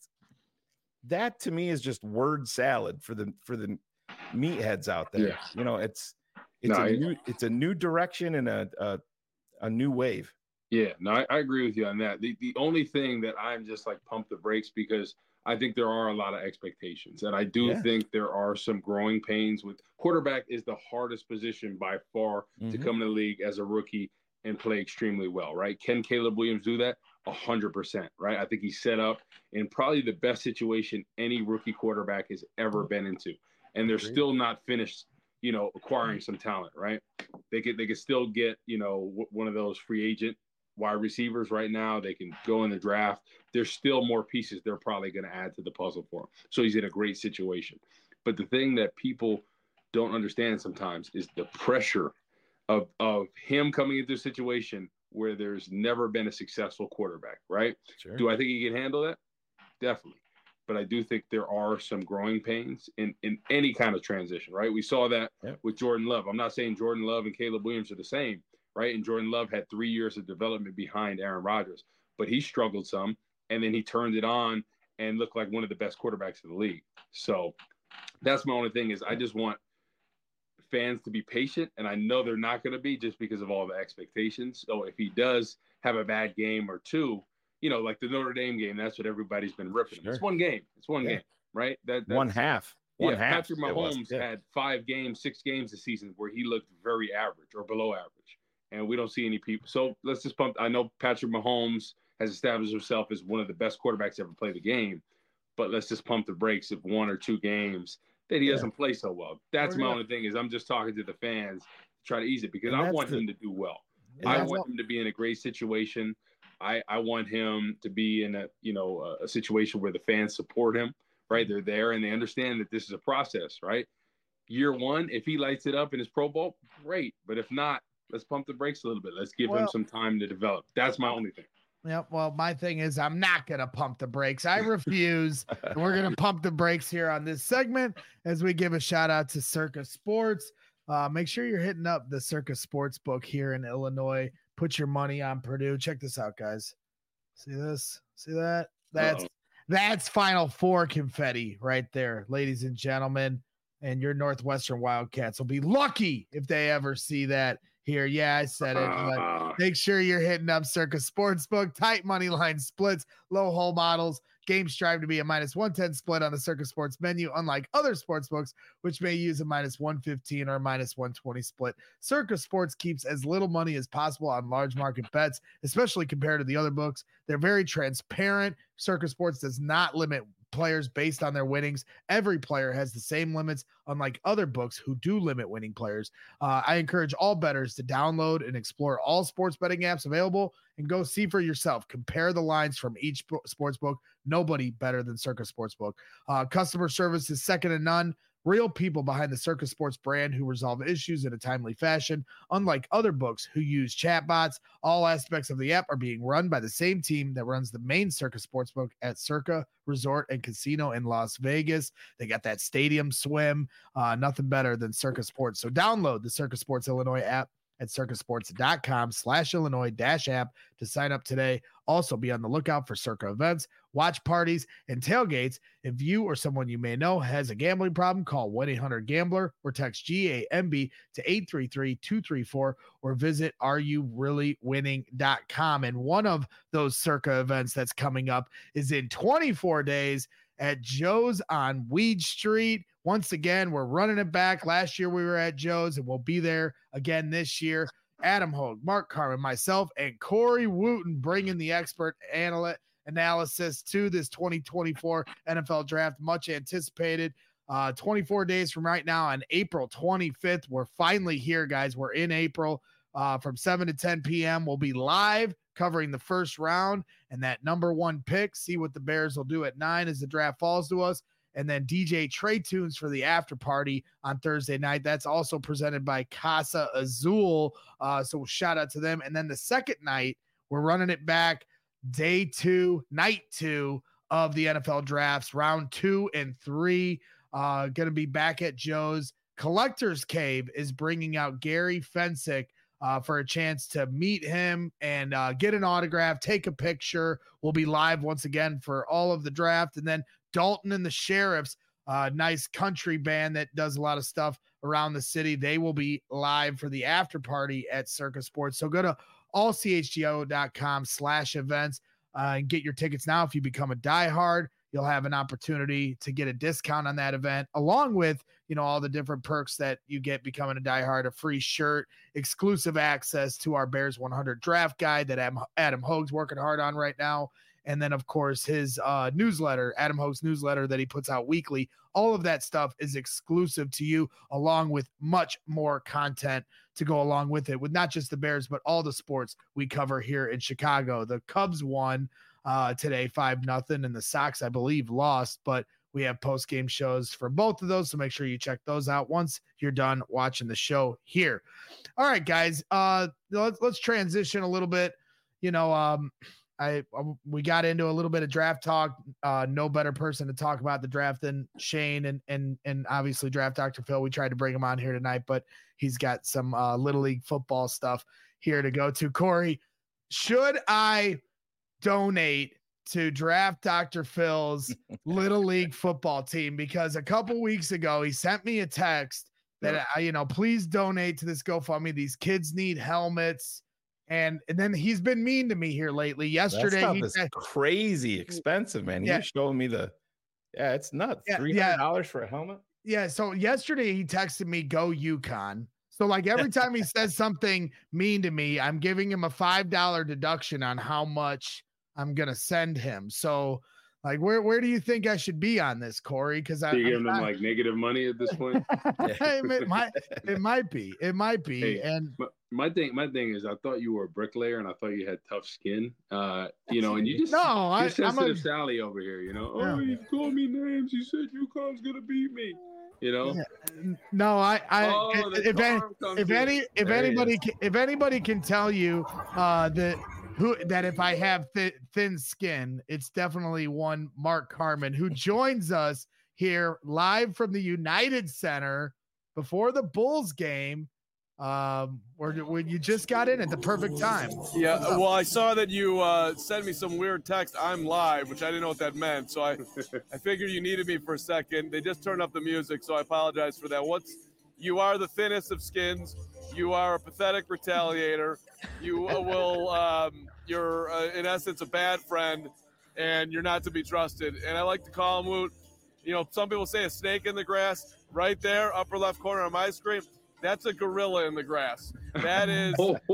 that to me is just word salad for the for the meatheads out there. Yeah. You know, it's it's no, a I, new it's a new direction and a a, a new wave. Yeah, no, I, I agree with you on that. The the only thing that I'm just like pump the brakes, because I think there are a lot of expectations, and I do Yeah. think there are some growing pains with quarterback. Is the hardest position by far Mm-hmm. to come in the league as a rookie and play extremely well, right? Can Caleb Williams do that? A hundred percent, right? I think he's set up in probably the best situation any rookie quarterback has ever been into, and they're Agreed. still not finished, you know, acquiring some talent, right? They could they could still get, you know, w- one of those free agent wide receivers right now. They can go in the draft. There's still more pieces they're probably going to add to the puzzle for him. So he's in a great situation. But the thing that people don't understand sometimes is the pressure of, of him coming into a situation where there's never been a successful quarterback, right? Sure. Do I think he can handle that? Definitely. But I do think there are some growing pains in, in any kind of transition, right? We saw that Yep. with Jordan Love. I'm not saying Jordan Love and Caleb Williams are the same, right? And Jordan Love had three years of development behind Aaron Rodgers, but he struggled some, and then he turned it on and looked like one of the best quarterbacks in the league. So that's my only thing is I just want fans to be patient, and I know they're not going to be just because of all the expectations. So if he does have a bad game or two, you know, like the Notre Dame game, that's what everybody's been ripping him. Sure. It's one game. It's one Yeah. game, right? That that's, One half. One yeah, half. Patrick it was. Mahomes Yeah. had five games, six games this season where he looked very average or below average, and we don't see any people. So let's just pump. I know Patrick Mahomes has established himself as one of the best quarterbacks to ever play the game, but let's just pump the brakes if one or two games that he Yeah. doesn't play so well. That's Or my not. only thing is I'm just talking to the fans to try to ease it, because And I that's want the- him to do well. And I that's want all- him to be in a great situation. I, I want him to be in a, you know, a, a situation where the fans support him, right? They're there and they understand that this is a process, right? Year one, if he lights it up in his Pro Bowl, great. But if not, let's pump the brakes a little bit. Let's give him Well- some time to develop. That's my only thing. Yeah, well, my thing is I'm not going to pump the brakes. I refuse. And we're going to pump the brakes here on this segment as we give a shout out to Circa Sports. Uh, make sure you're hitting up the Circa Sports book here in Illinois. Put your money on Purdue. Check this out, guys. See this? See that? That's Uh-oh. that's Final Four confetti right there, ladies and gentlemen. And your Northwestern Wildcats will be lucky if they ever see that here. Yeah, I said it. But Uh, make sure you're hitting up Circa Sportsbook, tight money line splits, low hole models. Games strive to be a minus one ten split on the Circa Sports menu, unlike other sports books, which may use a minus one fifteen or a minus one twenty split. Circa Sports keeps as little money as possible on large market bets, especially compared to the other books. They're very transparent. Circa Sports does not limit players based on their winnings. Every player has the same limits, unlike other books who do limit winning players. Uh, I encourage all bettors to download and explore all sports betting apps available and go see for yourself. Compare the lines from each bo- sports book. Nobody better than Circa Sportsbook. Uh, customer service is second to none. Real people behind the Circa Sports brand who resolve issues in a timely fashion. Unlike other books who use chatbots, all aspects of the app are being run by the same team that runs the main Circa Sportsbook at Circa Resort and Casino in Las Vegas. They got that stadium swim. Uh, nothing better than Circa Sports. So download the Circa Sports Illinois app at circasports.com slash Illinois dash app to sign up today. Also, be on the lookout for Circa events, watch parties, and tailgates. If you or someone you may know has a gambling problem, call one eight hundred gambler or text G A M B to eight three three, two three four or visit are you really winning dot com. And one of those Circa events that's coming up is in twenty-four days at Joe's on Weed Street. Once again, we're running it back. Last year we were at Joe's, and we'll be there again this year. Adam Hogue, Mark Carman, myself, and Corey Wooten bringing the expert analyst analysis to this twenty twenty-four N F L draft. Much anticipated. Uh, twenty-four days from right now on April twenty-fifth. We're finally here, guys. We're in April uh, from seven to ten p.m. We'll be live covering the first round and that number one pick. See what the Bears will do at nine as the draft falls to us. And then D J Trey Tunes for the after party on Thursday night. That's also presented by Casa Azul. Uh, so shout out to them. And then the second night, we're running it back day two, night two of the N F L drafts, round two and three. Uh, going to be back at Joe's. Collector's Cave is bringing out Gary Fensick uh, for a chance to meet him and uh, get an autograph, take a picture. We'll be live once again for all of the draft. And then Dalton and the Sheriffs, uh, nice country band that does a lot of stuff around the city. They will be live for the after party at Circa Sports. So go to all c h g o dot com slash events uh, and get your tickets now. If you become a diehard, you'll have an opportunity to get a discount on that event, along with, you know, all the different perks that you get becoming a diehard, a free shirt, exclusive access to our Bears one hundred draft guide that Adam, Adam Hogue's working hard on right now. And then, of course, his uh, newsletter, Adam Hogue's newsletter that he puts out weekly. All of that stuff is exclusive to you, along with much more content to go along with it, with not just the Bears, but all the sports we cover here in Chicago. The Cubs won uh, today, five nothing, and the Sox, I believe, lost. But we have post-game shows for both of those, so make sure you check those out once you're done watching the show here. All right, guys, uh, let's, let's transition a little bit. You know, um, I we got into a little bit of draft talk. Uh, no better person to talk about the draft than Shane and and and obviously Draft Doctor Phil. We tried to bring him on here tonight, but he's got some uh, Little League football stuff here to go to. Corey, should I donate to Draft Doctor Phil's Little League football team? Because a couple weeks ago he sent me a text that I, you know, please donate to this GoFundMe. These kids need helmets. And and then he's been mean to me here lately. Yesterday, that he is crazy expensive, man. Yeah. He was showing me the, yeah, it's nuts. Yeah, Three hundred dollars yeah. for a helmet. Yeah. So yesterday he texted me, "Go UConn." So like every time he says something mean to me, I'm giving him a five dollar deduction on how much I'm gonna send him. So like, where where do you think I should be on this, Corey? Because I'm giving them like negative money at this point. it might it might be it might be hey, and. My, my thing, my thing is, I thought you were a bricklayer, and I thought you had tough skin. Uh, you know, and you just no, I, sensitive I'm a, Sally over here. You know, yeah. oh, you called me names. You said UConn's gonna beat me. You know, yeah. no, I, I, oh, if any, if in. any, if there anybody, can, if anybody can tell you uh, that who that if I have th- thin skin, it's definitely one Mark Carman who joins us here live from the United Center before the Bulls game. Um, where when you just got in at the perfect time. Yeah, well, I saw that you uh, sent me some weird text. I'm live, which I didn't know what that meant. So I, I figured you needed me for a second. They just turned up the music, so I apologize for that. What's you are the thinnest of skins. You are a pathetic retaliator. You will, um, you're uh, in essence a bad friend, and you're not to be trusted. And I like to call him Woot. You know, some people say a snake in the grass. Right there, upper left corner on my screen. That's a gorilla in the grass. That is,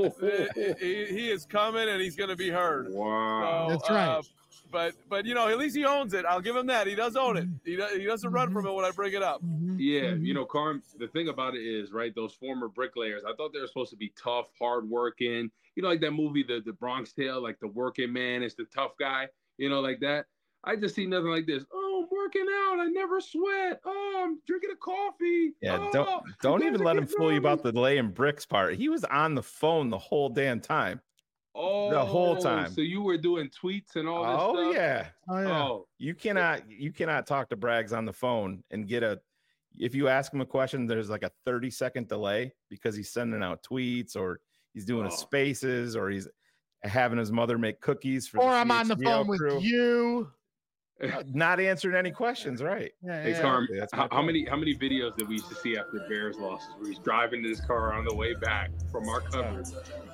he, he is coming and he's going to be heard. Wow. So, That's right. Uh, but, but, you know, at least he owns it. I'll give him that. He does own it. He, does, he doesn't run from it when I bring it up. Yeah. You know, Carm, the thing about it is, right, those former bricklayers, I thought they were supposed to be tough, hardworking. You know, like that movie, the, the Bronx Tale, like the working man is the tough guy, you know, like that. I just see nothing like this. Oh, I'm working out. I never sweat. Oh, I'm drinking a coffee. Yeah, oh, don't don't even let him fool you about the laying bricks part. He was on the phone the whole damn time. Oh, the whole time. So you were doing tweets and all this oh, stuff? Yeah. Oh, yeah. Oh, you cannot you cannot talk to Braggs on the phone and get a. If you ask him a question, there's like a thirty second delay because he's sending out tweets or he's doing oh. a spaces or he's. having his mother make cookies for or the I'm on the C H G L phone crew. with you. Not answering any questions, right? Yeah, Hey, yeah. Carm, That's my how, how point. many how many videos did we used to see after Bears losses where he's driving in his car on the way back from our coverage?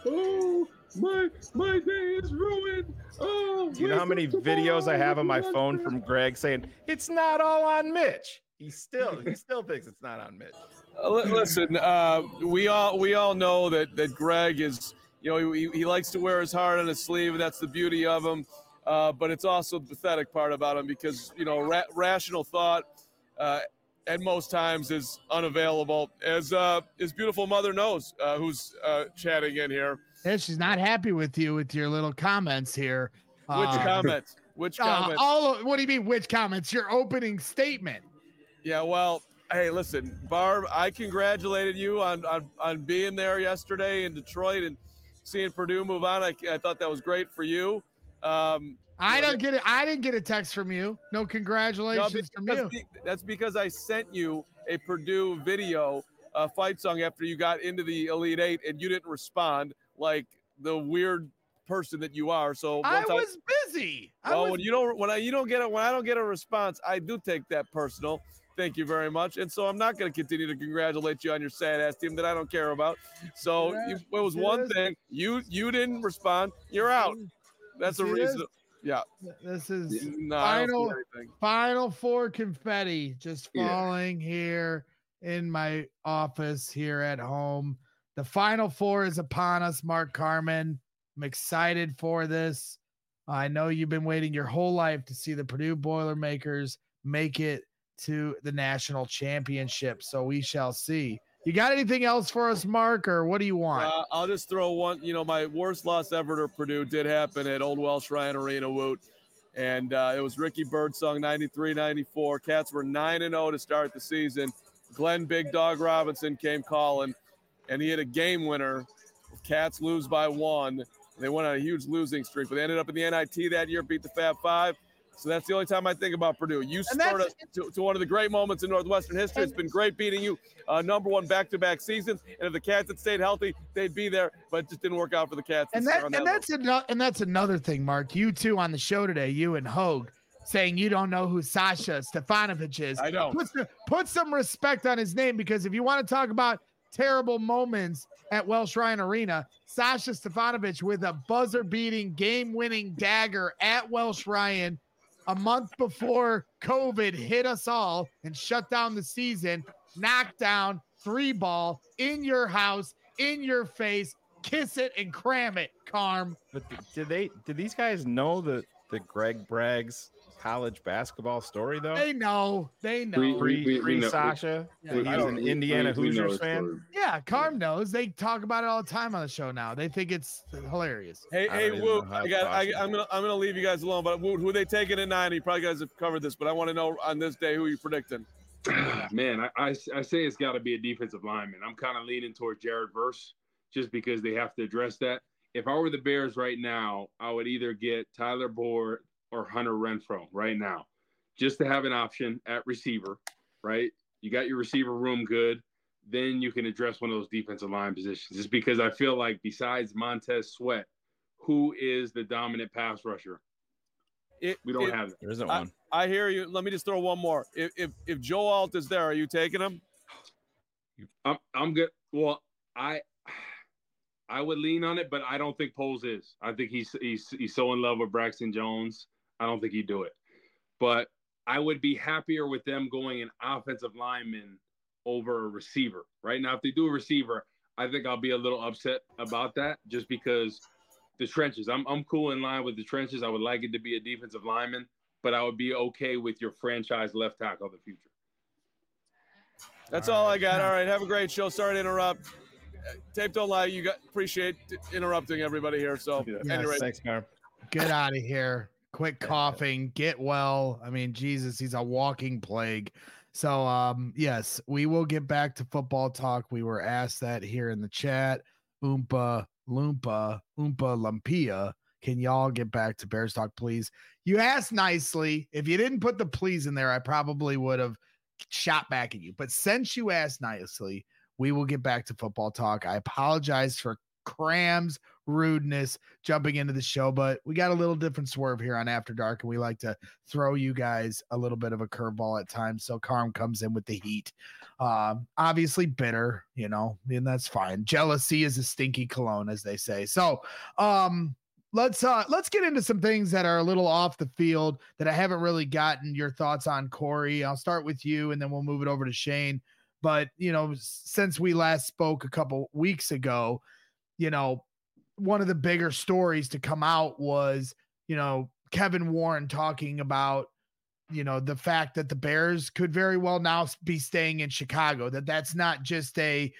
Oh, my my day is ruined. Oh, Do you know how many videos I have on my phone from Greg saying it's not all on Mitch? He still he still thinks it's not on Mitch. Uh, li- listen, uh, we all we all know that that Greg is, you know, he, he likes to wear his heart on his sleeve, and that's the beauty of him. Uh, but it's also the pathetic part about him because, you know, ra- rational thought uh, at most times is unavailable, as uh, his beautiful mother knows, uh, who's uh, chatting in here. Yeah, she's not happy with you with your little comments here. Which Uh, comments? Which uh, comments? all of, what do you mean? Which comments? Your opening statement. Yeah, well, hey, listen, Barb, I congratulated you on, on, on being there yesterday in Detroit and seeing Purdue move on. I, I thought that was great for you. Um, I you know, don't get it. I didn't get a text from you. No no, congratulations from because you. be- that's because I sent you a Purdue video uh, fight song after you got into the Elite Eight and you didn't respond like the weird person that you are. So I once was busy. I well, was when you don't when I you don't get it when I don't get a response, I do take that personal. Thank you very much. And so I'm not going to continue to congratulate you on your sad ass team that I don't care about. So Yeah, you, it was it one is. thing. You you didn't respond. You're out. That's a It reason. is. Yeah. This is No, I don't final see anything. final four confetti just Yeah. falling here in my office here at home. The final four is upon us, Mark Carman. I'm excited for this. I know you've been waiting your whole life to see the Purdue Boilermakers make it to the national championship. So we shall see. You got anything else for us, Mark, or what do you want? Uh, I'll just throw one. You know, my worst loss ever to Purdue did happen at Old Welsh Ryan Arena, Woot. And uh, it was Ricky Birdsong, ninety-three ninety-four. Cats were nine and oh to start the season. Glenn Big Dog Robinson came calling, and he had a game winner. Cats lose by one. They went on a huge losing streak, but they ended up in the N I T that year, beat the Fab Five. So that's the only time I think about Purdue. You And spurred us that's- to, to one of the great moments in Northwestern history. It's been great beating you uh, number one back-to-back seasons. And if the Cats had stayed healthy, they'd be there. But it just didn't work out for the Cats. And this year that on and that that's another and that's another thing, Mark. You two on the show today, you and Hogue, saying you don't know who Sasha Stefanovic is. I don't. Put some, put some respect on his name, because if you want to talk about terrible moments at Welsh Ryan Arena, Sasha Stefanovic with a buzzer-beating, game-winning dagger at Welsh Ryan a month before COVID hit us all and shut down the season, knocked down, three ball in your house, in your face. Kiss it and cram it, Carm. But th- did they did these guys know the the Greg Braggs college basketball story though? They know. They know. We- Pre, we- we pre know. Sasha, Yeah. that I he's don't- an we- Indiana we- we know Hoosiers his fan. story. Yeah, Carm knows. They talk about it all the time on the show now. They think it's hilarious. Hey, I hey, don't even Woot, know how I got, I, possible. I'm gonna, I'm gonna leave you guys alone. But Woot, who are they taking at nine? You probably guys have covered this, but I want to know on this day who you predicting. Man, I, I, I say it's got to be a defensive lineman. I'm kind of leaning towards Jared Verse just because they have to address that. If I were the Bears right now, I would either get Tyler Boyd or Hunter Renfrow right now, just to have an option at receiver, right? You got your receiver room good. Then you can address one of those defensive line positions. Just because I feel like besides Montez Sweat, who is the dominant pass rusher? It, We don't it- have that. There isn't I- one. I hear you. Let me just throw one more. If if, if Joe Alt is there, are you taking him? I'm I'm good. Well, I I would lean on it, but I don't think Poles is. I think he's he's he's so in love with Braxton Jones. I don't think he'd do it. But I would be happier with them going an offensive lineman over a receiver. Right now, if they do a receiver, I think I'll be a little upset about that just because the trenches. I'm I'm cool in line with the trenches. I would like it to be a defensive lineman, but I would be okay with your franchise left tackle of the future. That's all, I got. All right, have a great show. Sorry to interrupt. Uh, Tape don't lie. You got appreciate interrupting everybody here. So Yeah. anyway, Thanks, Carm. Get out of here. Quit coughing. Get well. I mean, Jesus, he's a walking plague. So, um, yes, we will get back to football talk. We were asked that here in the chat. Oompa, Loompa, Oompa Lumpia. Can y'all get back to Bears talk, please? You asked nicely. If you didn't put the please in there, I probably would have shot back at you. But since you asked nicely, we will get back to football talk. I apologize for Cram's rudeness jumping into the show, but we got a little different swerve here on After Dark, and we like to throw you guys a little bit of a curveball at times. So Carm comes in with the heat. Um, obviously bitter, you know, and that's fine. Jealousy is a stinky cologne, as they say. So um, let's uh, let's get into some things that are a little off the field that I haven't really gotten your thoughts on, Corey. I'll start with you, and then we'll move it over to Shane. But, you know, since we last spoke a couple weeks ago, you know, one of the bigger stories to come out was, you know, Kevin Warren talking about, you know, the fact that the Bears could very well now be staying in Chicago, that that's not just a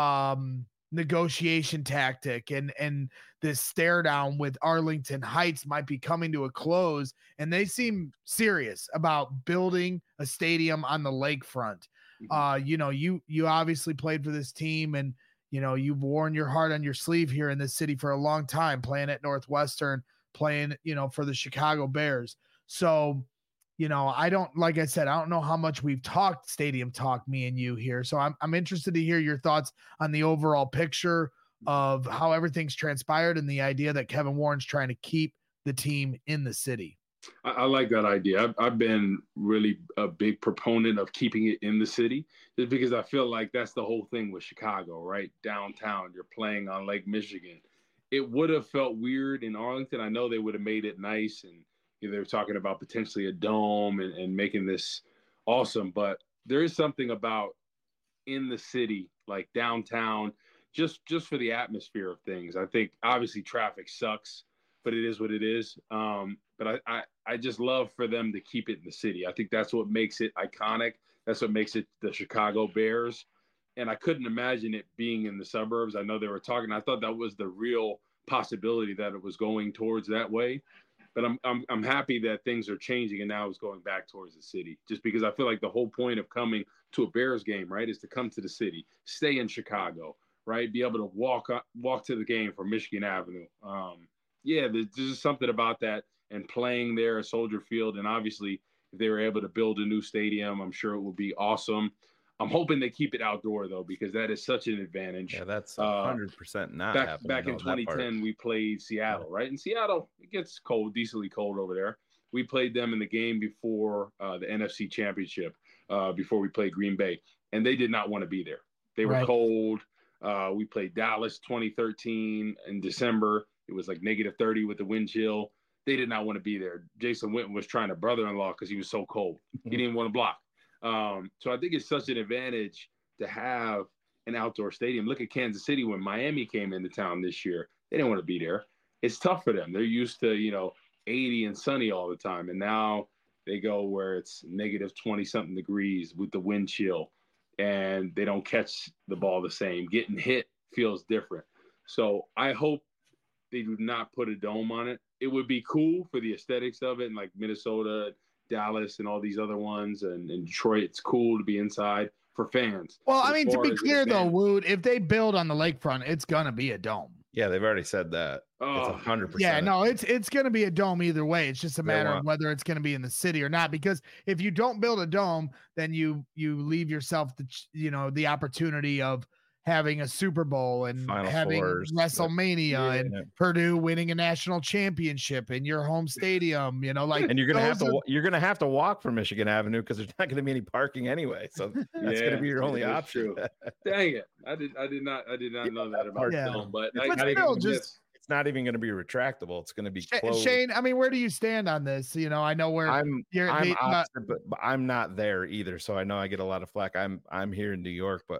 um, negotiation tactic, and, and this stare down with Arlington Heights might be coming to a close. And they seem serious about building a stadium on the lakefront. Uh, you know, you, you obviously played for this team, and, you know, you've worn your heart on your sleeve here in this city for a long time, playing at Northwestern, playing, you know, for the Chicago Bears. So, you know, I don't, like I said, I don't know how much we've talked stadium talk, me and you here. So I'm, I'm interested to hear your thoughts on the overall picture of how everything's transpired and the idea that Kevin Warren's trying to keep the team in the city. I, I like that idea. I've, I've been really a big proponent of keeping it in the city, just because I feel like that's the whole thing with Chicago, right? Downtown, you're playing on Lake Michigan. It would have felt weird in Arlington. I know they would have made it nice, and you know, they were talking about potentially a dome and, and making this awesome. But there is something about in the city, like downtown, just just for the atmosphere of things. I think obviously traffic sucks, but it is what it is. Um, but I, I, I just love for them to keep it in the city. I think that's what makes it iconic. That's what makes it the Chicago Bears. And I couldn't imagine it being in the suburbs. I know they were talking. I thought that was the real possibility, that it was going towards that way. But I'm, I'm, I'm happy that things are changing, and now it's going back towards the city, just because I feel like the whole point of coming to a Bears game, right, is to come to the city, stay in Chicago, right, be able to walk up, walk to the game from Michigan Avenue. Um, yeah, there's just something about that. And playing there at Soldier Field, and obviously if they were able to build a new stadium, I'm sure it would be awesome. I'm hoping they keep it outdoor, though, because that is such an advantage. Yeah, that's one hundred percent uh, not back, happening. Back in twenty ten, we played Seattle, right? In Seattle, it gets cold, decently cold over there. We played them in the game before uh, the N F C Championship, uh, before we played Green Bay, and they did not want to be there. They were right. cold. Uh, we played Dallas twenty thirteen in December. It was like negative thirty with the wind chill. They did not want to be there. Jason Witten was trying to brother-in-law because he was so cold. He didn't want to block. Um, so I think it's such an advantage to have an outdoor stadium. Look at Kansas City when Miami came into town this year. They didn't want to be there. It's tough for them. They're used to, you know, eighty and sunny all the time. And now they go where it's negative twenty-something degrees with the wind chill, and they don't catch the ball the same. Getting hit feels different. So I hope they do not put a dome on it. It would be cool for the aesthetics of it, and like Minnesota, Dallas, and all these other ones, and, and Detroit. It's cool to be inside for fans. Well, I mean, to be clear though, Wood, if they build on the lakefront, it's gonna be a dome. Yeah, they've already said that. Oh, it's one hundred percent. Yeah, no, it's it's gonna be a dome either way. It's just a matter of whether it's gonna be in the city or not. Because if you don't build a dome, then you you leave yourself the you know the opportunity of having a Super Bowl and Final having Fours. WrestleMania yeah. and Purdue winning a national championship in your home stadium, you know, like, and you're going to have to, are, you're going to have to walk from Michigan Avenue because there's not going to be any parking anyway. So that's yeah, going to be your only option. Dang it. I did, I did not, I did not know that about yeah. film, but, but I, still, I just, it's not even going to be retractable. It's going to be closed. Shane, I mean, where do you stand on this? You know, I know where I'm, you're, I'm they, opposite, uh, but, but I'm not there either. So I know I get a lot of flack. I'm, I'm here in New York, but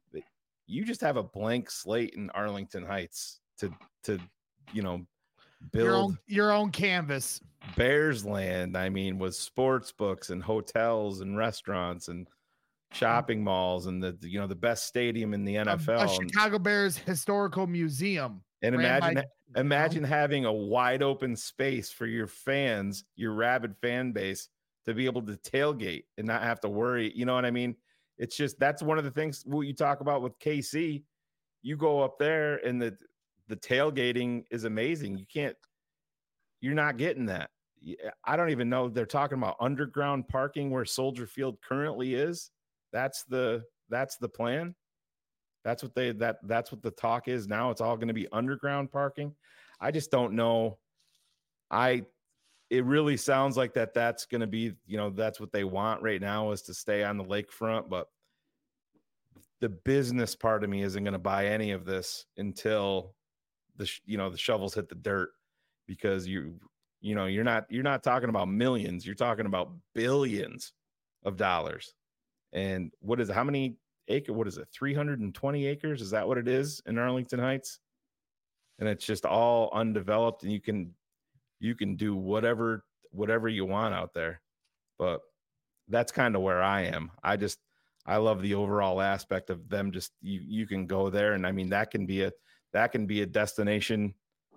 you just have a blank slate in Arlington Heights to, to, you know, build your own, your own canvas. Bears land. I mean, with sports books and hotels and restaurants and shopping malls and the, you know, the best stadium in the N F L. A, a Chicago Bears historical museum. And imagine, by, imagine you know? having a wide open space for your fans, your rabid fan base, to be able to tailgate and not have to worry. You know what I mean? It's just, that's one of the things what you talk about with K C. You go up there and the, the tailgating is amazing. You can't, you're not getting that. I don't even know. They're talking about underground parking where Soldier Field currently is. That's the, that's the plan. That's what they that that's what the talk is now. It's all going to be underground parking. I just don't know. I it really sounds like that that's going to be, you know, that's what they want right now is to stay on the lakefront, but the business part of me isn't going to buy any of this until the you know the shovels hit the dirt, because you you know you're not you're not talking about millions, you're talking about billions of dollars. And what is it, how many acre what is it three hundred twenty acres, is that what it is in Arlington Heights? And it's just all undeveloped, and you can you can do whatever whatever you want out there. But that's kind of where I am. I just I love the overall aspect of them. Just you you can go there, and I mean that can be a that can be a destination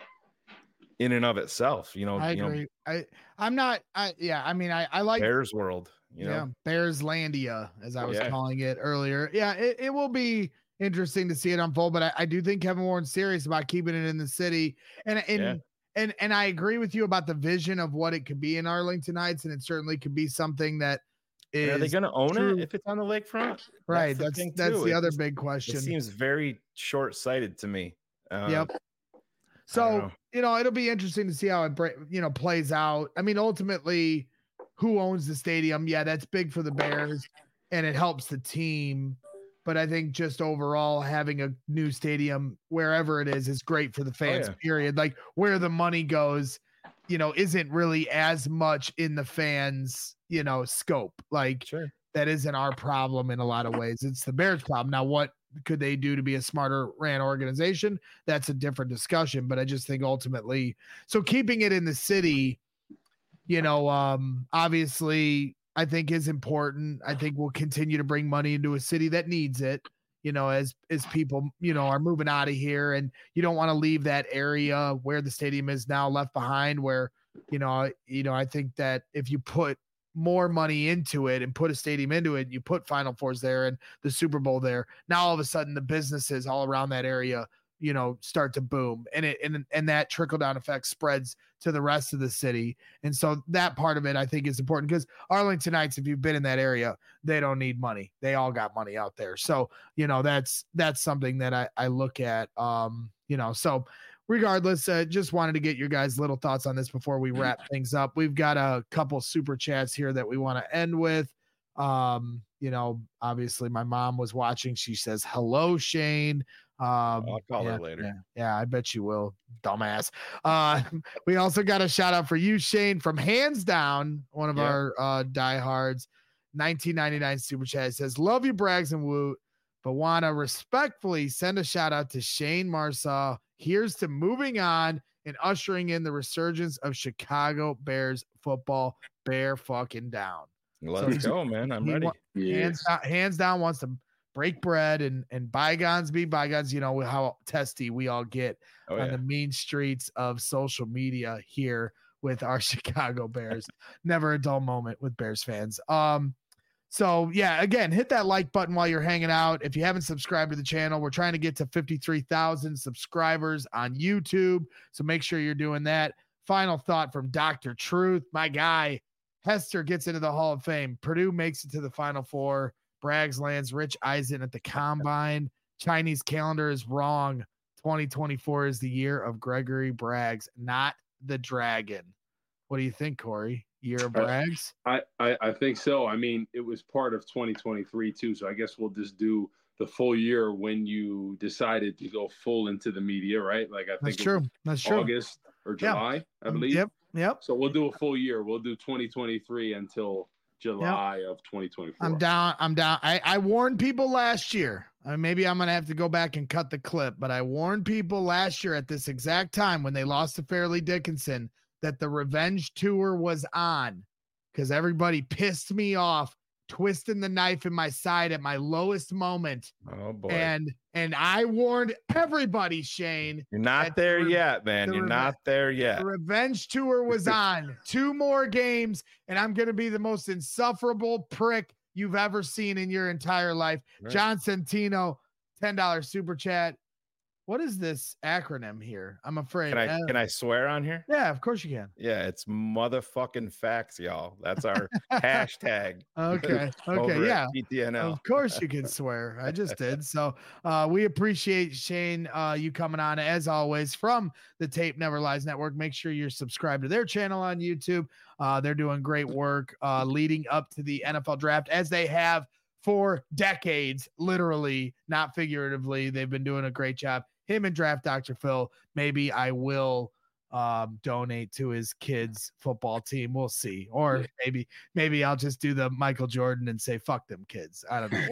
in and of itself. You know, I you agree. know, I I'm not. I yeah. I mean, I I like Bears World. You know, yeah, Bearslandia, as I was Yeah. calling it earlier. Yeah, it, it will be interesting to see it unfold, but I, I do think Kevin Warren's serious about keeping it in the city. And and Yeah. and and I agree with you about the vision of what it could be in Arlington Heights, and it certainly could be something that And is are they going to own true. it if it's on the lakefront? Right. the That's thing, that's too. the It other just- big It question. seems very short-sighted to me. Uh, Yep. I don't So, know. you know, it'll be interesting to see how it, bra- you know, plays out. I mean, ultimately, who owns the stadium? Yeah, that's big for the Bears, and it helps the team. But I think just overall, having a new stadium wherever it is is great for the fans, yeah. period. Like where the money goes, you know, isn't really as much in the fans, you know, scope. Like Sure. that isn't our problem in a lot of ways. It's the Bears' problem. Now, what could they do to be a smarter ran organization? That's a different discussion, but I just think ultimately, so keeping it in the city, you know, um, obviously I think is important. I think we'll continue to bring money into a city that needs it, you know, as, as people, you know, are moving out of here, and you don't want to leave that area where the stadium is now left behind, where, you know, you know, I think that if you put more money into it and put a stadium into it, you put Final Fours there and the Super Bowl there, now all of a sudden the businesses all around that area, you know, start to boom, and it and and that trickle down effect spreads to the rest of the city. And so that part of it I think is important, because Arlington Heights, if you've been in that area, they don't need money. They all got money out there. So, you know, that's that's something that I, I look at. Um, you know, so regardless, uh, just wanted to get your guys' little thoughts on this before we wrap things up. We've got a couple super chats here that we want to end with. Um, you know, obviously my mom was watching. She says, hello, Shane. Um, I'll call yeah, her later. Yeah, yeah, I bet you will, dumbass. Uh, we also got a shout out for you, Shane, from Hands Down, one of Yeah. our uh, diehards. nineteen ninety-nine super chat. It says, love you, Braggs and Woot, but want to respectfully send a shout out to Shane Marsaw. Here's to moving on and ushering in the resurgence of Chicago Bears football. Bear fucking down. Let's So- go, man. I'm He ready. wa- hands, down, hands down wants to break bread and and bygones be bygones. You know how testy we all get Oh, on yeah. the mean streets of social media here with our Chicago Bears. Never a dull moment with Bears fans. Um, so yeah, again, hit that like button while you're hanging out. If you haven't subscribed to the channel, we're trying to get to fifty-three thousand subscribers on YouTube. So make sure you're doing that. Final thought from Doctor Truth, my guy. Hester gets into the Hall of Fame. Purdue makes it to the Final Four. Braggs lands Rich Eisen at the Combine. Chinese calendar is wrong. twenty twenty-four is the year of Gregory Braggs, not the Dragon. What do you think, Corey? Year of Uh, Braggs? I, I, I think so. I mean, it was part of twenty twenty-three too. So I guess we'll just do the full year when you decided to go full into the media, right? Like I That's think it true. was That's true. August or Yeah. July, I believe. Yep. Yep. So we'll do a full year. We'll do twenty twenty-three until July of twenty twenty-four. I'm down. I'm down. I, I warned people last year. Uh, maybe I'm going to have to go back and cut the clip, but I warned people last year at this exact time when they lost to Fairleigh Dickinson that the revenge tour was on, because everybody pissed me off, twisting the knife in my side at my lowest moment. Oh boy. And and I warned everybody, Shane, You're not at there the re- yet, man. the You're reve- not there yet. the revenge tour was on. Two more games, and I'm going to be the most insufferable prick you've ever seen in your entire life. Right. John Centino, ten dollars super chat. what is this acronym here? I'm afraid. Can I uh, can I swear on here? Yeah, of course you can. Yeah, it's motherfucking facts, y'all. That's our hashtag. Okay. over Okay. at Yeah. P T N L. Of course you can swear. I just did. So uh, we appreciate Shane, uh, you coming on as always from the Tape Never Lies Network. Make sure you're subscribed to their channel on YouTube. Uh, they're doing great work uh, leading up to the N F L draft as they have for decades, literally, not figuratively. They've been doing a great job. Him and Draft Doctor Phil. Maybe I will um, donate to his kids' football team. We'll see. Or maybe maybe I'll just do the Michael Jordan and say, fuck them kids. I don't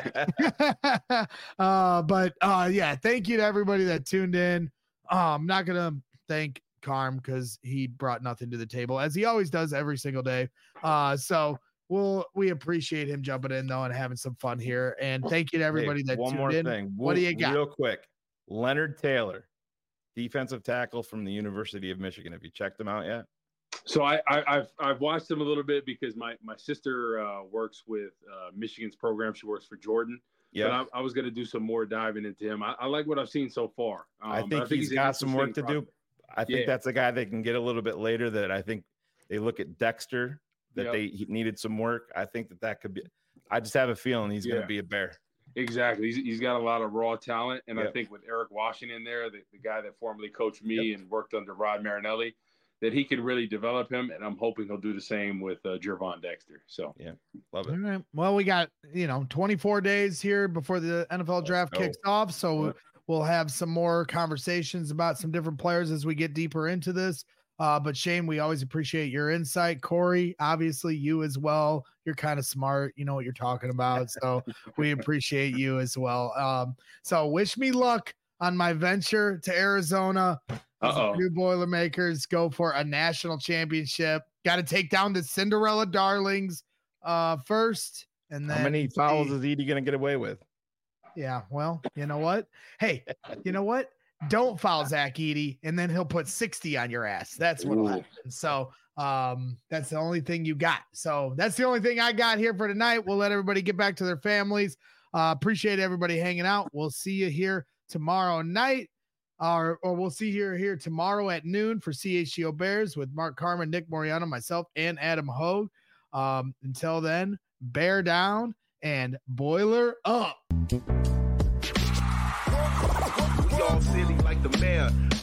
know. uh, but uh, yeah, thank you to everybody that tuned in. Uh, I'm not going to thank Carm because he brought nothing to the table, as he always does every single day. Uh, so we'll, we appreciate him jumping in, though, and having some fun here. And thank you to everybody Hey, that one tuned more in. thing. What do you got? Real quick. Leonard Taylor, defensive tackle from the University of Michigan. Have you checked him out yet? So I, I, I've I've watched him a little bit because my my sister uh, works with uh, Michigan's program. She works for Jordan. Yeah, But I, I was going to do some more diving into him. I, I like what I've seen so far. Um, I, think I think he's he's got some work to do. I think Yeah. that's a guy they can get a little bit later. That I think they look at Dexter that Yep. they he needed some work. I think that that could be. I just have a feeling he's going Yeah. to be a bear. Exactly. He's, he's got a lot of raw talent. And Yep. I think with Eric Washington there, the, the guy that formerly coached me and worked under Rod Marinelli, that he could really develop him. And I'm hoping he'll do the same with uh, Gervon Dexter. So, Yeah, love All it. right. Well, we got, you know, twenty-four days here before the N F L draft go. kicks off. So Yeah. we'll have some more conversations about some different players as we get deeper into this. Uh, but Shane, we always appreciate your insight. Corey, obviously you as well. You're kind of smart. You know what you're talking about. So we appreciate you as well. Um, so wish me luck on my venture to Arizona. Uh-oh. New Boilermakers go for a national championship. Got to take down the Cinderella Darlings uh, first. And then How many fouls see- is Edie going to get away with? Yeah, well, you know what? Hey, you know what? Don't foul Zach Edey, and then he'll put sixty on your ass. That's what'll Ooh. happen. So um, that's the only thing you got. So that's the only thing I got here for tonight. We'll let everybody get back to their families. Uh, appreciate everybody hanging out. We'll see you here tomorrow night, or or we'll see you here tomorrow at noon for C H G O Bears with Mark Carmen, Nick Moriano, myself, and Adam Hogue. Um, until then, bear down and boiler up. We all silly like the mayor.